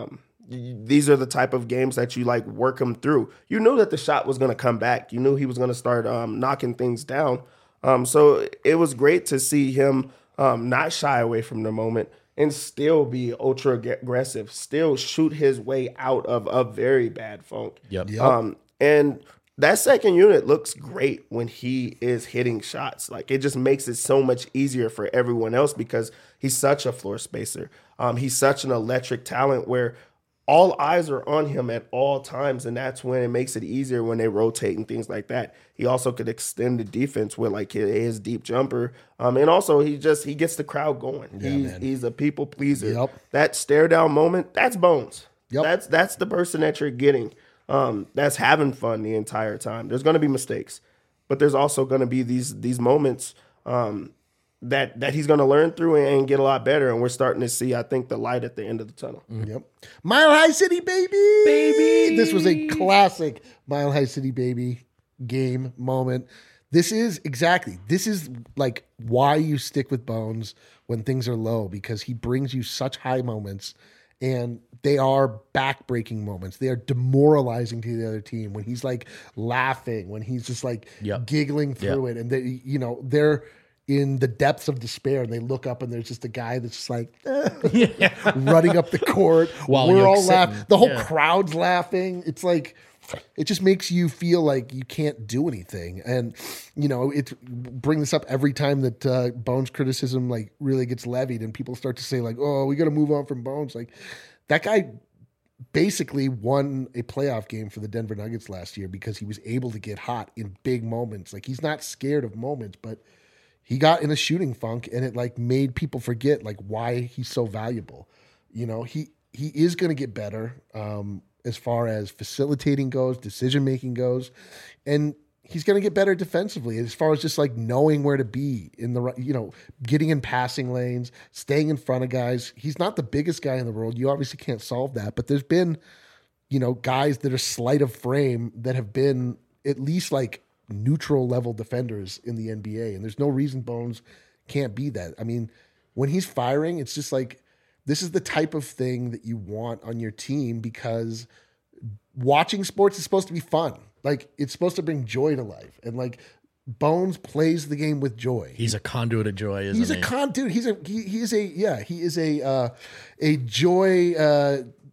These are the type of games that you like work him through. You knew that the shot was going to come back. You knew he was going to start knocking things down. So it was great to see him not shy away from the moment and still be ultra aggressive, still shoot his way out of a very bad funk. Yep. And that second unit looks great when he is hitting shots. Like, it just makes it so much easier for everyone else because he's such a floor spacer. He's such an electric talent where all eyes are on him at all times, and that's when it makes it easier when they rotate and things like that. He also could extend the defense with like his deep jumper, and also he gets the crowd going. He's a people pleaser. Yep. That stare down moment, that's Bones. Yep. That's the person that you're getting. That's having fun the entire time. There's going to be mistakes, but there's also going to be these moments that he's going to learn through and get a lot better. And we're starting to see, I think, the light at the end of the tunnel. Yep. Mile High City, baby. This was a classic Mile High City, baby game moment. This is like why you stick with Bones when things are low, because he brings you such high moments, and they are backbreaking moments. They are demoralizing to the other team when he's like laughing, when he's just like giggling through it, and they're in the depths of despair, and they look up and there's just a guy that's just like running up the court. While we're you're all sitting. laughing. The whole crowd's laughing. It's like, it just makes you feel like you can't do anything. And, bring this up every time that Bones criticism like really gets levied and people start to say like, oh, we got to move on from Bones. Like, that guy basically won a playoff game for the Denver Nuggets last year because he was able to get hot in big moments. Like, he's not scared of moments, but he got in a shooting funk, and it like made people forget like why he's so valuable. He is going to get better as far as facilitating goes, decision making goes, and he's going to get better defensively as far as just like knowing where to be in the getting in passing lanes, staying in front of guys. He's not the biggest guy in the world. You obviously can't solve that, but there's been guys that are slight of frame that have been at least like neutral level defenders in the NBA, and there's no reason Bones can't be that. I mean, when he's firing, it's just like, this is the type of thing that you want on your team, because watching sports is supposed to be fun. Like, it's supposed to bring joy to life, and like Bones plays the game with joy. He's a conduit of joy, isn't he? He is a joy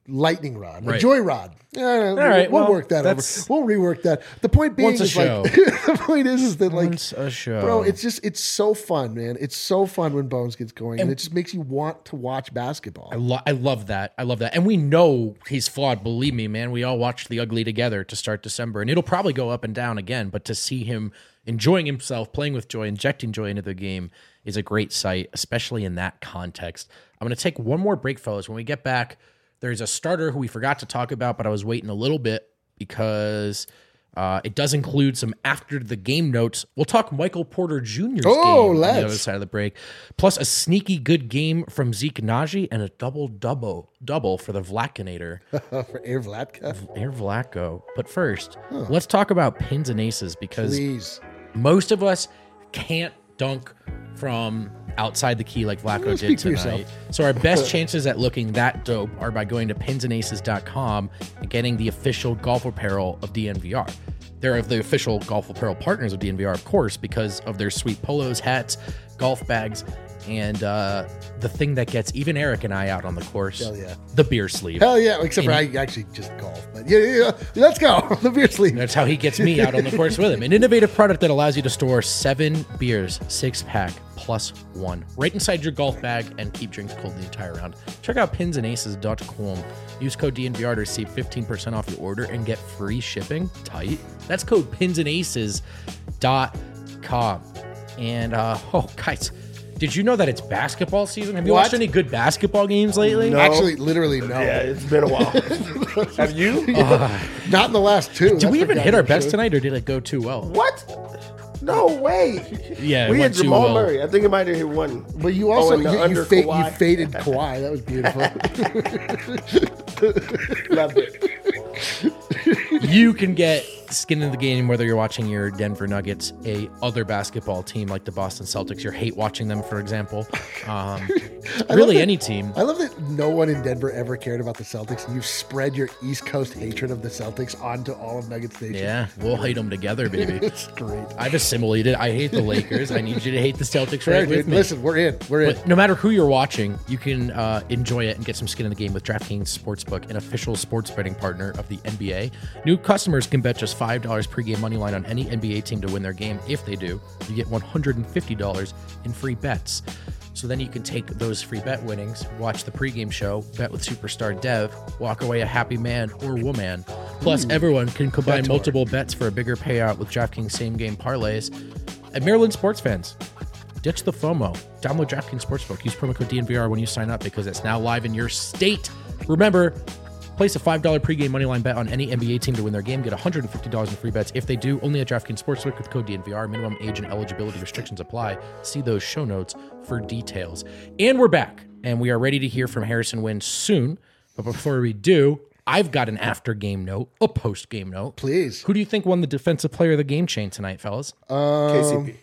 lightning rod, a Right. joy rod. All right, we'll well, work that over. that's- We'll rework that. The point being Once a is show. like the point is that like Once a show. bro, it's so fun, man. It's so fun when Bones gets going, and it just makes you want to watch basketball. I love that. I love that. And we know he's flawed. Believe me, man. We all watched The Ugly together to start December, and it'll probably go up and down again. But to see him enjoying himself, playing with joy, injecting joy into the game is a great sight, especially in that context. I'm going to take one more break, fellas. When we get back, there's a starter who we forgot to talk about, but I was waiting a little bit because it does include some after the game notes. We'll talk Michael Porter Jr.'s game on the other side of the break, plus a sneaky good game from Zeke Naji and a double for the Vlakinator, For Air Vlatka, Air Vlatko. But first, let's talk about pins and aces because please. most of us can't dunk from outside the key like Vlatko did Speak for tonight. yourself. So our best chances at looking that dope are by going to pinsandaces.com and getting the official golf apparel of DNVR. They're the official golf apparel partners of DNVR, of course, because of their sweet polos, hats, golf bags, and the thing that gets even Eric and I out on the course, Hell yeah. the beer sleeve. Hell yeah! Except for I actually just golf, but yeah. Let's go. The beer sleeve. That's how he gets me out on the course with him. An innovative product that allows you to store 7 beers, 6-pack plus 1, right inside your golf bag and keep drinks cold the entire round. Check out pinsandaces.com. Use code DNVR to receive 15% off your order and get free shipping. Tight. That's code pinsandaces.com. And, guys, did you know that it's basketball season? Have you watched any good basketball games lately? No. Actually, literally no. Yeah, it's been a while. Have you? Not in the last two. Did we even hit our best tonight, or did it go too well? What? No way. Yeah, it We went had too Jamal well. Murray. I think it might have hit one. But you also and the under you Kawhi. faded Kawhi. That was beautiful. Loved it. You can get skin in the game whether you're watching your Denver Nuggets, a other basketball team like the Boston Celtics. You hate watching them, for example. Really, any team. I love that no one in Denver ever cared about the Celtics, and you've spread your East Coast hatred of the Celtics onto all of Nuggets Nation. Yeah, we'll hate them together, baby. It's great. I've assimilated. I hate the Lakers. I need you to hate the Celtics Fair, right with dude. me. Listen, we're in. We're in. But no matter who you're watching, you can enjoy it and get some skin in the game with DraftKings Sportsbook, an official sports betting partner of the NBA. New customers can bet just $5 pregame money line on any NBA team to win their game. If they do, you get $150 in free bets. So then you can take those free bet winnings, watch the pregame show, bet with superstar Dev, walk away a happy man or woman. Plus, everyone can combine multiple bets for a bigger payout with DraftKings same-game parlays. At Maryland sports fans, ditch the FOMO. Download DraftKings Sportsbook. Use promo code DNVR when you sign up because it's now live in your state. Remember, place a $5 pregame moneyline bet on any NBA team to win their game. Get $150 in free bets. If they do, only at DraftKings Sportsbook with code DNVR. Minimum age and eligibility restrictions apply. See those show notes for details. And we're back, and we are ready to hear from Harrison Wind soon. But before we do, I've got an after-game note, a post-game note. Please. Who do you think won the Defensive Player of the Game chain tonight, fellas? KCP.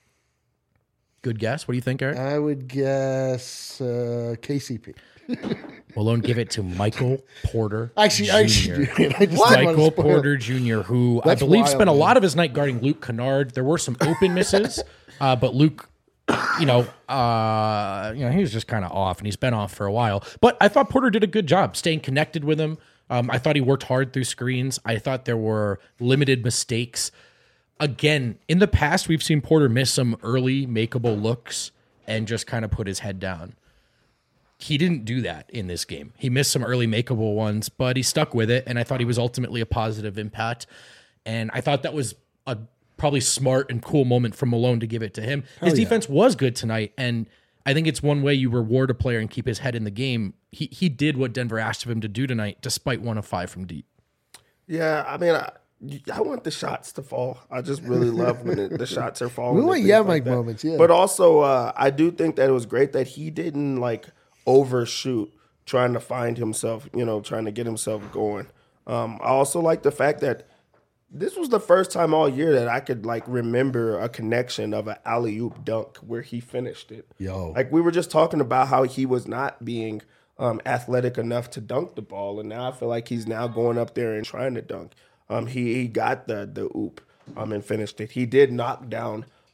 Good guess. What do you think, Eric? I would guess KCP. Well, don't give it to Michael Porter Actually, Jr. I just didn't want to Michael spoil. Porter Jr., who That's I believe wild, spent a man. lot of his night guarding Luke Kennard. There were some open misses, but Luke, he was just kind of off, and he's been off for a while. But I thought Porter did a good job staying connected with him. I thought he worked hard through screens. I thought there were limited mistakes. Again, in the past, we've seen Porter miss some early makeable looks and just kind of put his head down. He didn't do that in this game. He missed some early makeable ones, but he stuck with it, and I thought he was ultimately a positive impact. And I thought that was a probably smart and cool moment from Malone to give it to him. His defense was good tonight, and I think it's one way you reward a player and keep his head in the game. He did what Denver asked of him to do tonight, despite 1 of 5 from deep. Yeah, I mean, I want the shots to fall. I just really love when the shots are falling. We want and things Mike that. moments, yeah. But also, I do think that it was great that he didn't overshoot trying to find himself, trying to get himself going. I also like the fact that this was the first time all year that I could remember a connection of an alley-oop dunk where he finished it. Yo. We were just talking about how he was not being athletic enough to dunk the ball, and now I feel like he's now going up there and trying to dunk. He got the oop and finished it. He did knock down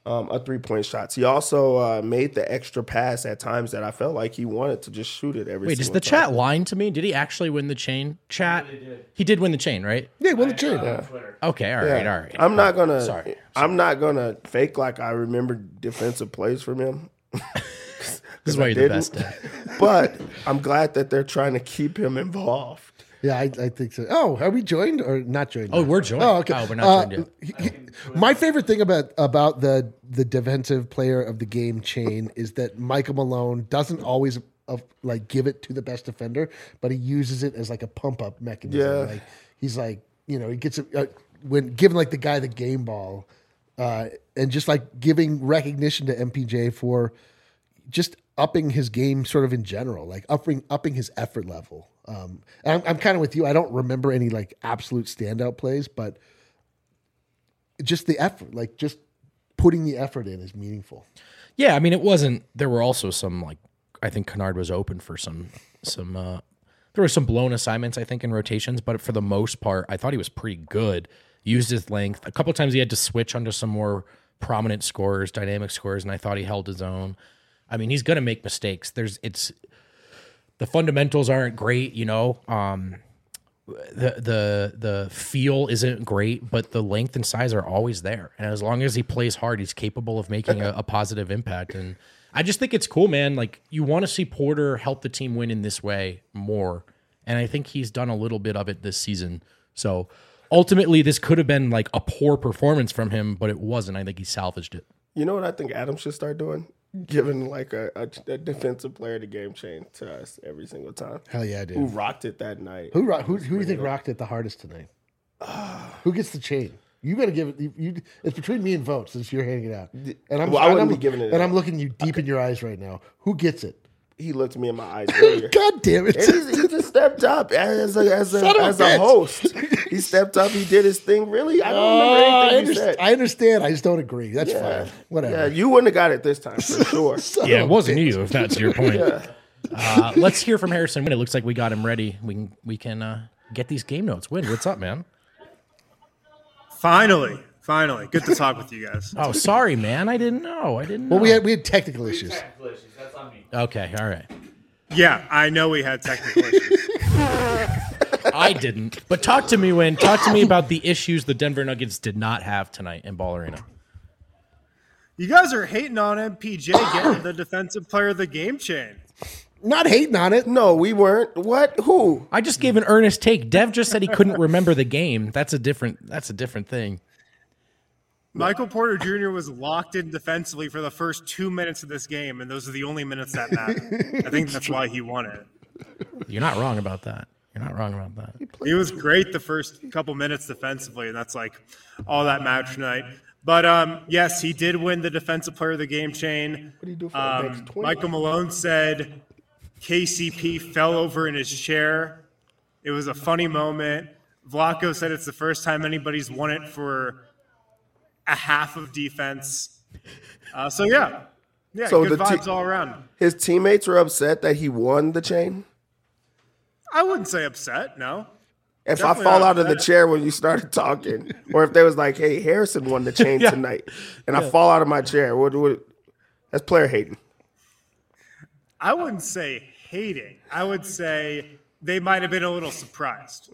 a 3-point shots. He also made the extra pass at times that I felt like he wanted to just shoot it every Wait, is single the time. chat lying to me? Did he actually win the chain? Chat? He did win the chain, right? Yeah, well, the chain. Okay, all right. I'm not gonna. Sorry. I'm not gonna fake like I remember defensive plays from him. This is why you're the best at. But I'm glad that they're trying to keep him involved. Yeah, I think so. Oh, are we joined or not joined? Oh, we're joined. Oh, okay. Oh, we're not joined My favorite thing about the defensive player of the game chain is that Michael Malone doesn't always like give it to the best defender, but he uses it as like a pump up mechanism. Yeah. Like he's like, he gets it when giving like the guy the game ball, and just like giving recognition to MPJ for just upping his game sort of in general, like upping his effort level. And I'm kind of with you. I don't remember any like absolute standout plays, but just the effort, like just putting the effort in is meaningful. Yeah, I mean, it wasn't. There were also some like I think Kennard was open for some. There were some blown assignments I think in rotations, but for the most part, I thought he was pretty good. Used his length a couple of times. He had to switch onto some more prominent scorers, dynamic scorers, and I thought he held his own. I mean, he's going to make mistakes. The fundamentals aren't great, the feel isn't great, but the length and size are always there. And as long as he plays hard, he's capable of making a positive impact. And I just think it's cool, man. Like you want to see Porter help the team win in this way more. And I think he's done a little bit of it this season. So ultimately this could have been like a poor performance from him, but it wasn't. I think he salvaged it. You know what I think Adam should start doing? Giving like a defensive player the game chain to us every single time. Hell yeah, dude. Who rocked it that night? Who do you think rocked it the hardest tonight? Who gets the chain? You got to give it. It's between me and Vote since you're handing it out. And I wouldn't be giving it. And I'm looking you deep in your eyes right now. Who gets it? He looked me in my eyes earlier. God damn it! And he just stepped up as a host. He stepped up. He did his thing. Really, I don't remember anything he said. I understand. I just don't agree. That's fine. Whatever. Yeah, you wouldn't have got it this time for sure. Yeah, it wasn't you, if that's your point. Let's hear from Harrison Wind. It looks like we got him ready. We can get these game notes. Wind, what's up, man? Finally. Good to talk with you guys. Oh, sorry, man. I didn't know. Well, we had technical issues. That's on me. Okay, all right. Yeah, I know we had technical issues. I didn't. But talk to me, Wind. Talk to me about the issues the Denver Nuggets did not have tonight in Ball Arena. You guys are hating on MPJ getting the defensive player of the game chain. Not hating on it. No, we weren't. What? Who? I just gave an earnest take. Dev just said he couldn't remember the game. That's a different thing. Michael Porter Jr. was locked in defensively for the first 2 minutes of this game, and those are the only minutes that matter. I think that's why he won it. You're not wrong about that. He was great the first couple minutes defensively, and that's like all that mattered tonight. But yes, he did win the defensive player of the game chain. What do you do for the next 20? Michael Malone said KCP fell over in his chair. It was a funny moment. Vlatko said it's the first time anybody's won it for a half of defense. So good vibes all around. His teammates were upset that he won the chain. I wouldn't say upset, no. If Definitely I fall not out of the upset. chair when you started talking, or if there was like, "Hey, Harrison won the chain tonight," and I fall out of my chair, that's player hating. I wouldn't say hating. I would say they might have been a little surprised.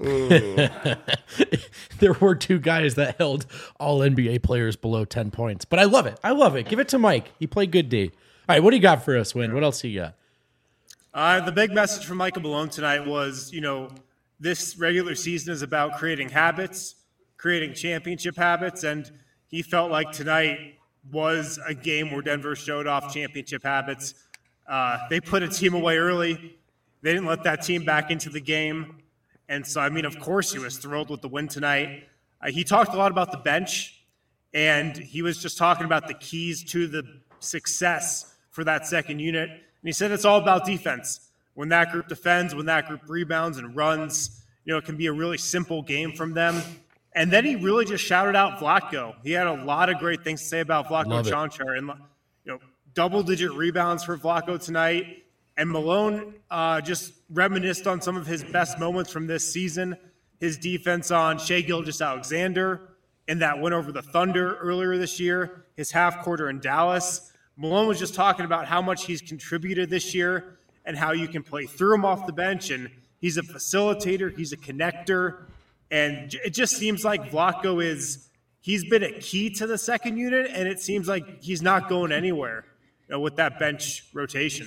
There were two guys that held all NBA players below 10 points. But I love it. Give it to Mike. He played good D. All right, what do you got for us, Win? What else you got? The big message from Michael Malone tonight was, this regular season is about creating habits, creating championship habits, and he felt like tonight was a game where Denver showed off championship habits. They put a team away early. They didn't let that team back into the game. And so, of course he was thrilled with the win tonight. He talked a lot about the bench, and he was just talking about the keys to the success for that second unit. And he said it's all about defense. When that group defends, when that group rebounds and runs, it can be a really simple game from them. And then he really just shouted out Vlatko. He had a lot of great things to say about Vlatko Čančar. And, double-digit rebounds for Vlatko tonight. And Malone just reminisced on some of his best moments from this season. His defense on Shai Gilgeous-Alexander in that win over the Thunder earlier this year. his half quarter in Dallas. Malone was just talking about how much he's contributed this year and how you can play through him off the bench. And he's a facilitator. He's a connector. And it just seems like Vlatko he's been a key to the second unit, and it seems like he's not going anywhere, with that bench rotation.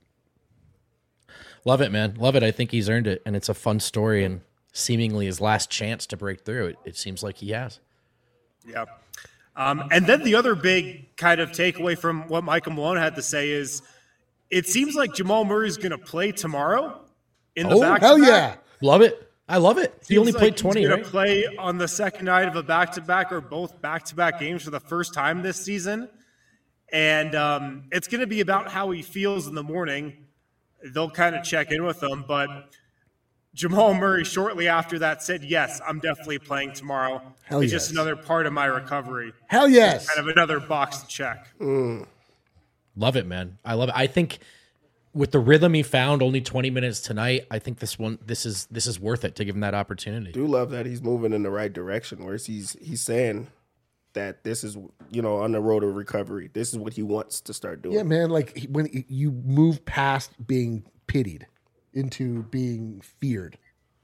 Love it, man. Love it. I think he's earned it, and it's a fun story and seemingly his last chance to break through. It seems like he has. Yeah. And then the other big kind of takeaway from what Michael Malone had to say is it seems like Jamal Murray's going to play tomorrow in the back-to-back. Hell yeah. Love it. I love it. He only played 20, he's right? going to play on the second night of a back-to-back or both back-to-back games for the first time this season. And it's going to be about how he feels in the morning. They'll kind of check in with him. But Jamal Murray shortly after that said, yes, I'm definitely playing tomorrow. Hell it's yes. just another part of my recovery. Hell yes. Kind of another box to check. Love it, man. I love it. I think with the rhythm he found, only 20 minutes tonight, I think this is worth it to give him that opportunity. Do love that he's moving in the right direction, where he's saying that this is, on the road of recovery. This is what he wants to start doing. Yeah, man. Like when you move past being pitied into being feared.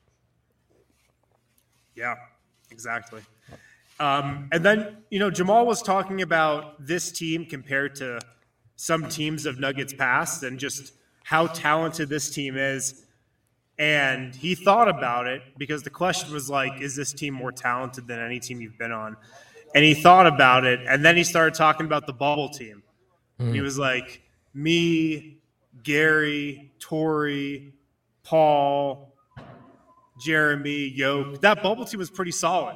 Yeah, exactly. And then, Jamal was talking about this team compared to some teams of Nuggets past and just how talented this team is. And he thought about it because the question was like, is this team more talented than any team you've been on? And he thought about it, and then he started talking about the bubble team. And he was like, me, Gary, Torrey, Paul, Jeremy, Yoke. That bubble team was pretty solid.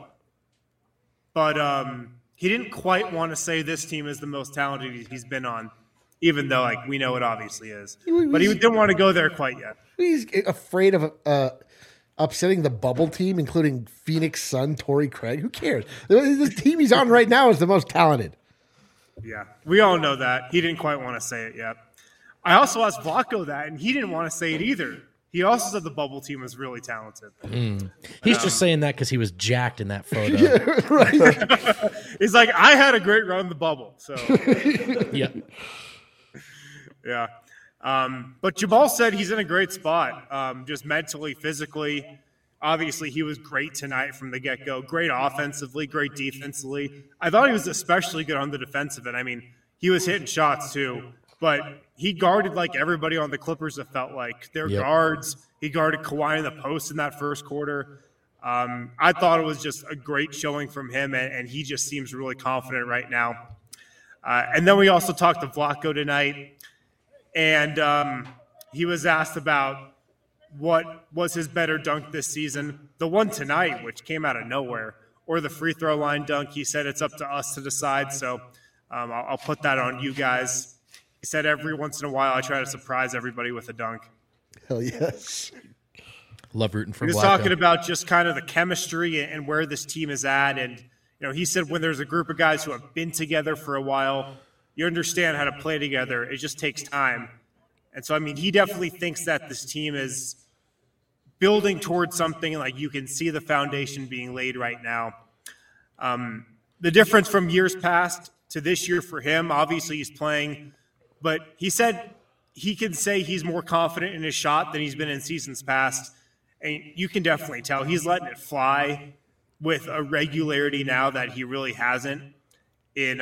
But he didn't quite want to say this team is the most talented he's been on, even though we know it obviously is. But he didn't want to go there quite yet. He's afraid of upsetting the bubble team, including Phoenix Sun, Torrey Craig. Who cares? The team he's on right now is the most talented. Yeah, we all know that. He didn't quite want to say it yet. I also asked Vlatko that, and he didn't want to say it either. He also said the bubble team was really talented. He's just saying that because he was jacked in that photo. Yeah, right. He's like, I had a great run in the bubble. So, Yeah. yeah. But Jamal said he's in a great spot, just mentally, physically. Obviously, he was great tonight from the get-go. Great offensively, great defensively. I thought he was especially good on the defensive end. I mean, he was hitting shots too, but he guarded like everybody on the Clippers, it felt like. Their guards, he guarded Kawhi in the post in that first quarter. I thought it was just a great showing from him, and he just seems really confident right now. And then we also talked to Vlatko tonight, and he was asked about what was his better dunk this season. The one tonight, which came out of nowhere, or the free throw line dunk. He said it's up to us to decide, so I'll put that on you guys. He said every once in a while I try to surprise everybody with a dunk. Hell yes. Love rooting for He was Vlatko. talking about just kind of the chemistry and where this team is at. And, he said when there's a group of guys who have been together for a while, you understand how to play together. It just takes time. And so, he definitely thinks that this team is building towards something, like you can see the foundation being laid right now. The difference from years past to this year for him, obviously he's playing, but he said he can say he's more confident in his shot than he's been in seasons past. And you can definitely tell he's letting it fly with a regularity now that he really hasn't in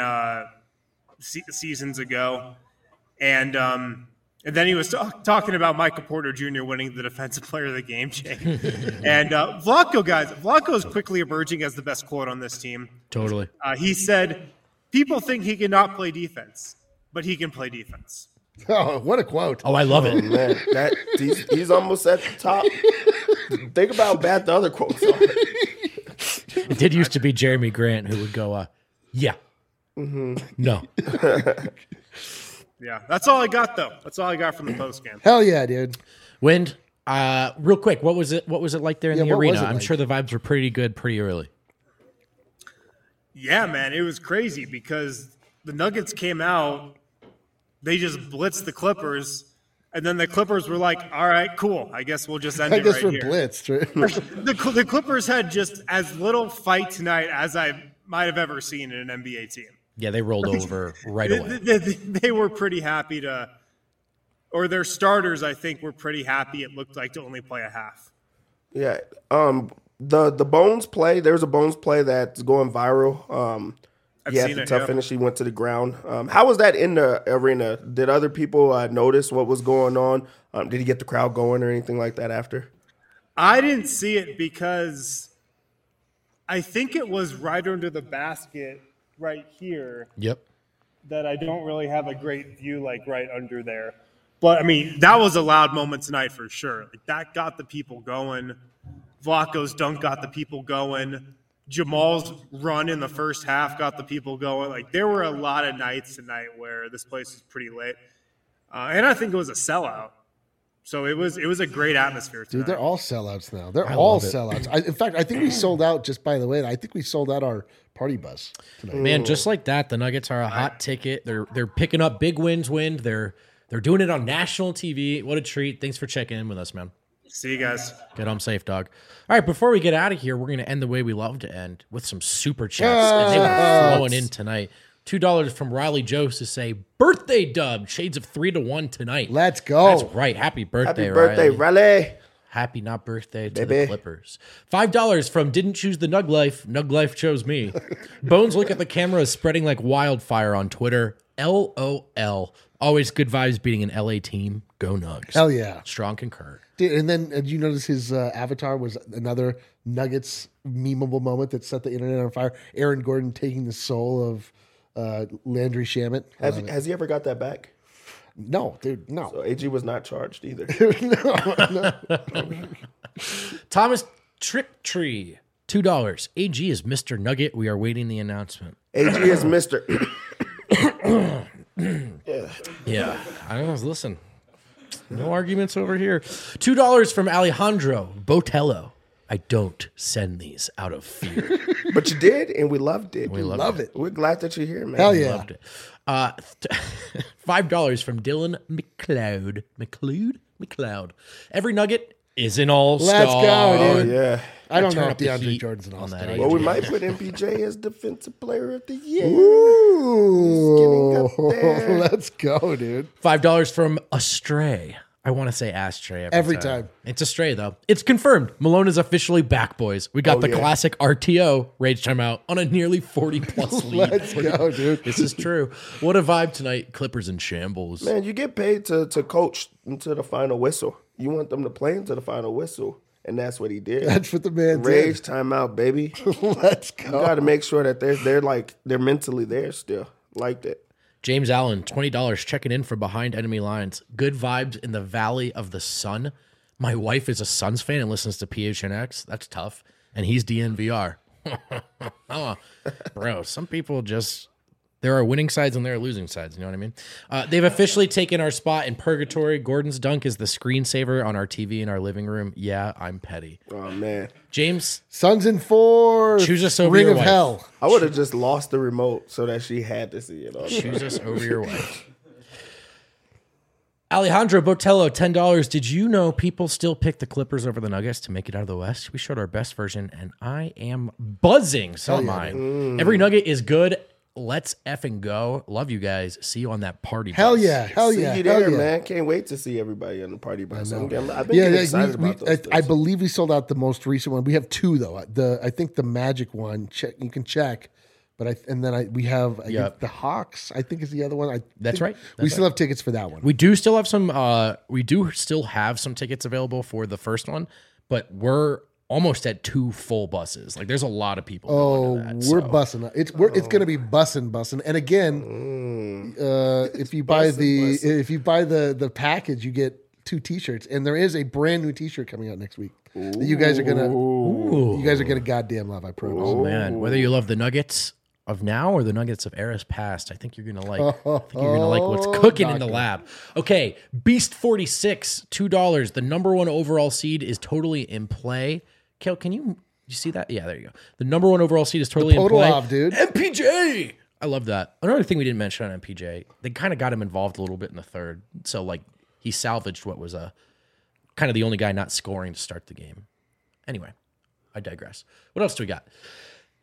seasons ago. And then he was talking about Michael Porter Jr. winning the Defensive Player of the Game, Jay. And Vlatko is quickly emerging as the best quote on this team. Totally. He said, people think he cannot play defense, but he can play defense. Oh, what a quote. Oh, I love Oh, it. man, he's almost at the top. Think about how bad the other quotes are. It did used to be Jeremy Grant who would go, yeah. No. Yeah, that's all I got, though. That's all I got from the postgame. Hell yeah, dude. Wind, real quick, what was it like there in the what was arena? it I'm like? sure the vibes were pretty good pretty early. Yeah, man, it was crazy because the Nuggets came out, they just blitzed the Clippers, and then the Clippers were like, all right, cool. I guess we'll just end I it guess right we're here. blitzed. Right? The Clippers had just as little fight tonight as I might have ever seen in an NBA team. Yeah, they rolled over right away. They were pretty happy or their starters, I think, were pretty happy. It looked like to only play a half. Yeah. The Bones play, there's a Bones play that's going viral. He had the tough finish. He went to the ground. How was that in the arena? Did other people notice what was going on? Did he get the crowd going or anything like that after? I didn't see it because I think it was right under the basket right here. Yep. That I don't really have a great view, like right under there. But, I mean, that was a loud moment tonight for sure. Like, that got the people going. Vlatko's dunk got the people going. Jamal's run in the first half got the people going. Like, there were a lot of nights tonight where this place was pretty lit. And I think it was a sellout. So it was a great atmosphere tonight. Dude, they're all sellouts now. They're all sellouts. In fact, I think we sold out, just by the way, I think we sold out our party bus tonight. Man, just like that, the Nuggets are a hot ticket. They're picking up big wins. They're doing it on national TV. What a treat. Thanks for checking in with us, man. See you guys. Get home safe, dog. All right, before we get out of here, we're going to end the way we love to end with some super chats. And they were flowing in tonight. $2 from Riley Jones to say, birthday dub, shades of 3-1 tonight. Let's go. That's right. Happy birthday, Happy birthday, Riley. Happy not birthday to the Clippers. $5 from Didn't Choose the Nug Life. Nug Life chose me. Bones look at the camera is spreading like wildfire on Twitter. LOL. Always good vibes beating an LA team. Go Nugs. Hell yeah. Strong concur. Dude, and then did you notice his avatar was another Nuggets memeable moment that set the internet on fire? Aaron Gordon taking the soul of Landry Shamet. Has he ever got that back? No, dude, no. So AG was not charged either. no. Thomas Triptree, $2. AG is Mr. Nugget. We are waiting the announcement. AG is Mr. Yeah. I don't know. Listen, no arguments over here. $2 from Alejandro Botello. I don't send these out of fear. But you did, and we loved it. We love it. We're glad that you're here, man. Hell yeah. Loved it. $5 from Dylan McLeod. Every Nugget is an all-star. Let's go, dude. Oh, yeah. I don't turn know if up the DeAndre heat Jordan's an on all-star. that Well, we might put MPJ as Defensive Player of the Year. Ooh. Getting up there. Let's go, dude. $5 from Astray. I want to say Astray Every time. It's Astray, though. It's confirmed. Malone is officially back, boys. We got the classic RTO, Rage Timeout, on a nearly 40-plus lead. Let's go, dude. This is true. What a vibe tonight. Clippers in shambles. Man, you get paid to coach into the final whistle. You want them to play into the final whistle, and that's what he did. That's what the man Rage did. timeout, baby. Let's You go. got to make sure that they're mentally there still, like that. James Allen, $20, checking in from behind enemy lines. Good vibes in the Valley of the Sun. My wife is a Suns fan and listens to PHNX. That's tough. And he's DNVR. Oh, bro, some people just... There are winning sides and there are losing sides. You know what I mean? They've officially taken our spot in purgatory. Gordon's dunk is the screensaver on our TV in our living room. Yeah, I'm petty. Oh, man. James, Suns in 4. Choose us over Ring your of wife. Hell. I would have just lost the remote so that she had to see it. choose us over your wife. Alejandro Botello, $10. Did you know people still pick the Clippers over the Nuggets to make it out of the West? We showed our best version, and I am buzzing. So am I. Every Nugget is good. Let's effing go. Love you guys. See you on that party bus. Hell yeah. Hell See yeah. you Hell there, yeah. man. Can't wait to see everybody on the party bus. I've been Yeah, getting excited about those I things. believe we sold out the most recent one. We have 2 though. I think the Magic one. You can check, but we have Yep. the Hawks. I think is the other one. That's right. We still have tickets for that one. We do still have some. We do still have some tickets available for the first one, but we're almost at 2 full buses. Like there's a lot of people. going to that, We're so. bussing. It's going to be bussing. And again, if you buy the package, you get 2 T-shirts, and there is a brand new T-shirt coming out next week. That you guys are gonna goddamn love. I promise. Oh man, whether you love the Nuggets of now or the Nuggets of eras past, I think you're gonna like. I think you're gonna like what's cooking in the lab. Okay, Beast 46, $2. The number 1 overall seed is totally in play. Kel, can you see that? Yeah, there you go. The number 1 overall seed is totally in play. Podolov, dude. MPJ. I love that. Another thing we didn't mention on MPJ, they kind of got him involved a little bit in the third. So like he salvaged what was a kind of the only guy not scoring to start the game. Anyway, I digress. What else do we got?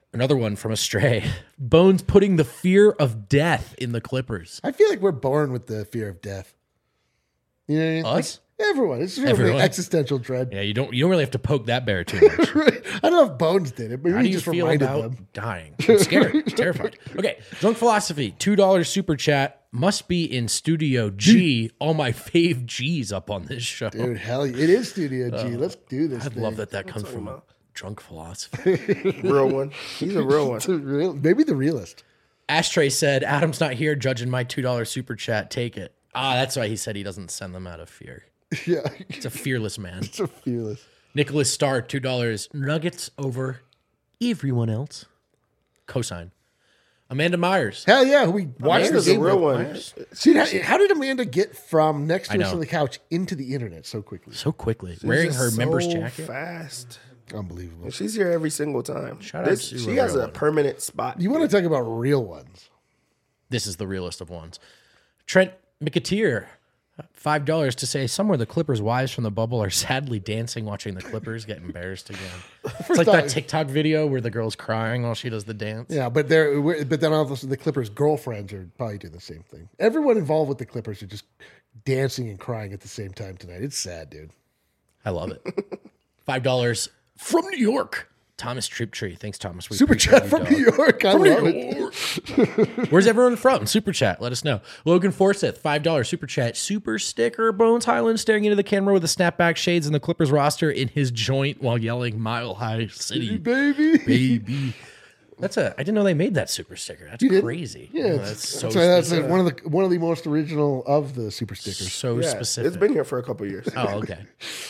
Another one from Astray. Bones putting the fear of death in the Clippers. I feel like we're born with the fear of death. You know what I mean? Us? Like, everyone. It's really Everyone. existential dread. Yeah, you don't really have to poke that bear too much. I don't know if Bones did it, but How he do you just feel reminded about them. dying? I'm scared. I'm terrified. Okay, Drunk Philosophy, $2 super chat. Must be in Studio G. All my fave G's up on this show. Dude, hell, it is Studio G. Let's do this. I'd thing. love that comes from a Drunk Philosophy. Real one. He's a real one. It's a maybe the realist. Ashtray said, Adam's not here judging my $2 super chat. Take it. That's why he said he doesn't send them out of fear. Yeah, It's a fearless man. it's a fearless. Nicholas Starr, $2. Nuggets over everyone else. Cosign. Amanda Myers. Hell yeah, we watched Amanda's the a game. real one. Myers. See, how did Amanda get from next to I us know. on the couch into the internet so quickly? So quickly. She's Wearing just her member's so jacket. fast. Unbelievable. And she's here every single time. Shout out to She a has real a one. permanent spot. You want to talk about real ones? This is the realest of ones. Trent McAteer, $5 to say somewhere the Clippers' wives from the bubble are sadly dancing watching the Clippers get embarrassed again. It's like that TikTok video where the girl's crying while she does the dance. Yeah, but then all of a sudden the Clippers' girlfriends are probably doing the same thing. Everyone involved with the Clippers are just dancing and crying at the same time tonight. It's sad, dude. I love it. $5 from New York. Thomas Trooptree. Thanks, Thomas. We Super appreciate chat you, from dog. New York. I love it. Where's everyone from? Super chat. Let us know. Logan Forsyth, $5 super chat. Super sticker. Bones Highland staring into the camera with the snapback shades and the Clippers roster in his joint while yelling Mile High City. Baby. Baby. I didn't know they made that super sticker. That's didn't? crazy. Yeah, Oh, it's- that's so that's specific. one of the most original of the super stickers. So Yeah, specific. it's been here for a couple years. Oh, okay.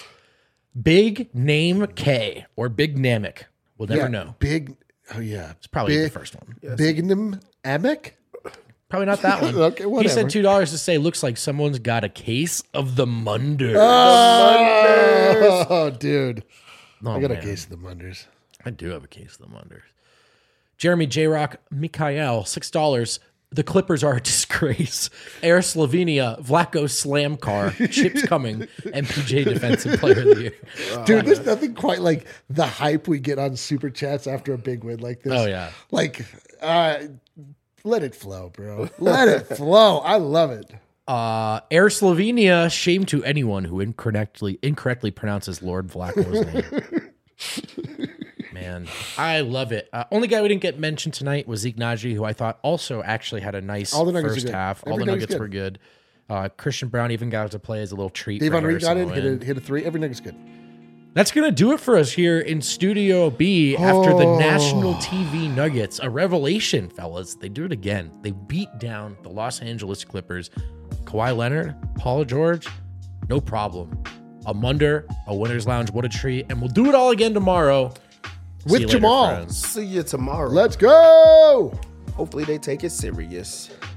Big Name K or Big Namek. We'll never know. Big. Oh yeah, It's probably big, the first one. Bignum Amek. Probably not that one. Okay, He whatever. said $2 to say looks like someone's got a case of the Munder. Oh, dude, Oh, I got a man. case of the Munders. I do have a case of the Munders. Jeremy J. Rock, Mikhail, $6. The Clippers are a disgrace. Air Slovenia, Vlaco Slam Car, Chips Coming, MPJ Defensive Player of the Year. Dude, there's nothing quite like the hype we get on super chats after a big win like this. Oh, yeah. Like, let it flow, bro. Let it flow. I love it. Air Slovenia, shame to anyone who incorrectly pronounces Lord Vlaco's name. Man, I love it. Only guy we didn't get mentioned tonight was Zeke Naji, who I thought also actually had a nice All the Nuggets first are good. half. All Every the Nugget's Nuggets were good. Christian Brown even got to play as a little treat. Dave for Henry got in, Harrison hit a three. Every nigga's good. That's going to do it for us here in Studio B after the national TV Nuggets. A revelation, fellas. They do it again. They beat down the Los Angeles Clippers. Kawhi Leonard, Paul George, no problem. A Munder, a winner's lounge, what a treat. And we'll do it all again tomorrow. See With you later, Jamal. friends. See you tomorrow. Let's go. Hopefully they take it serious.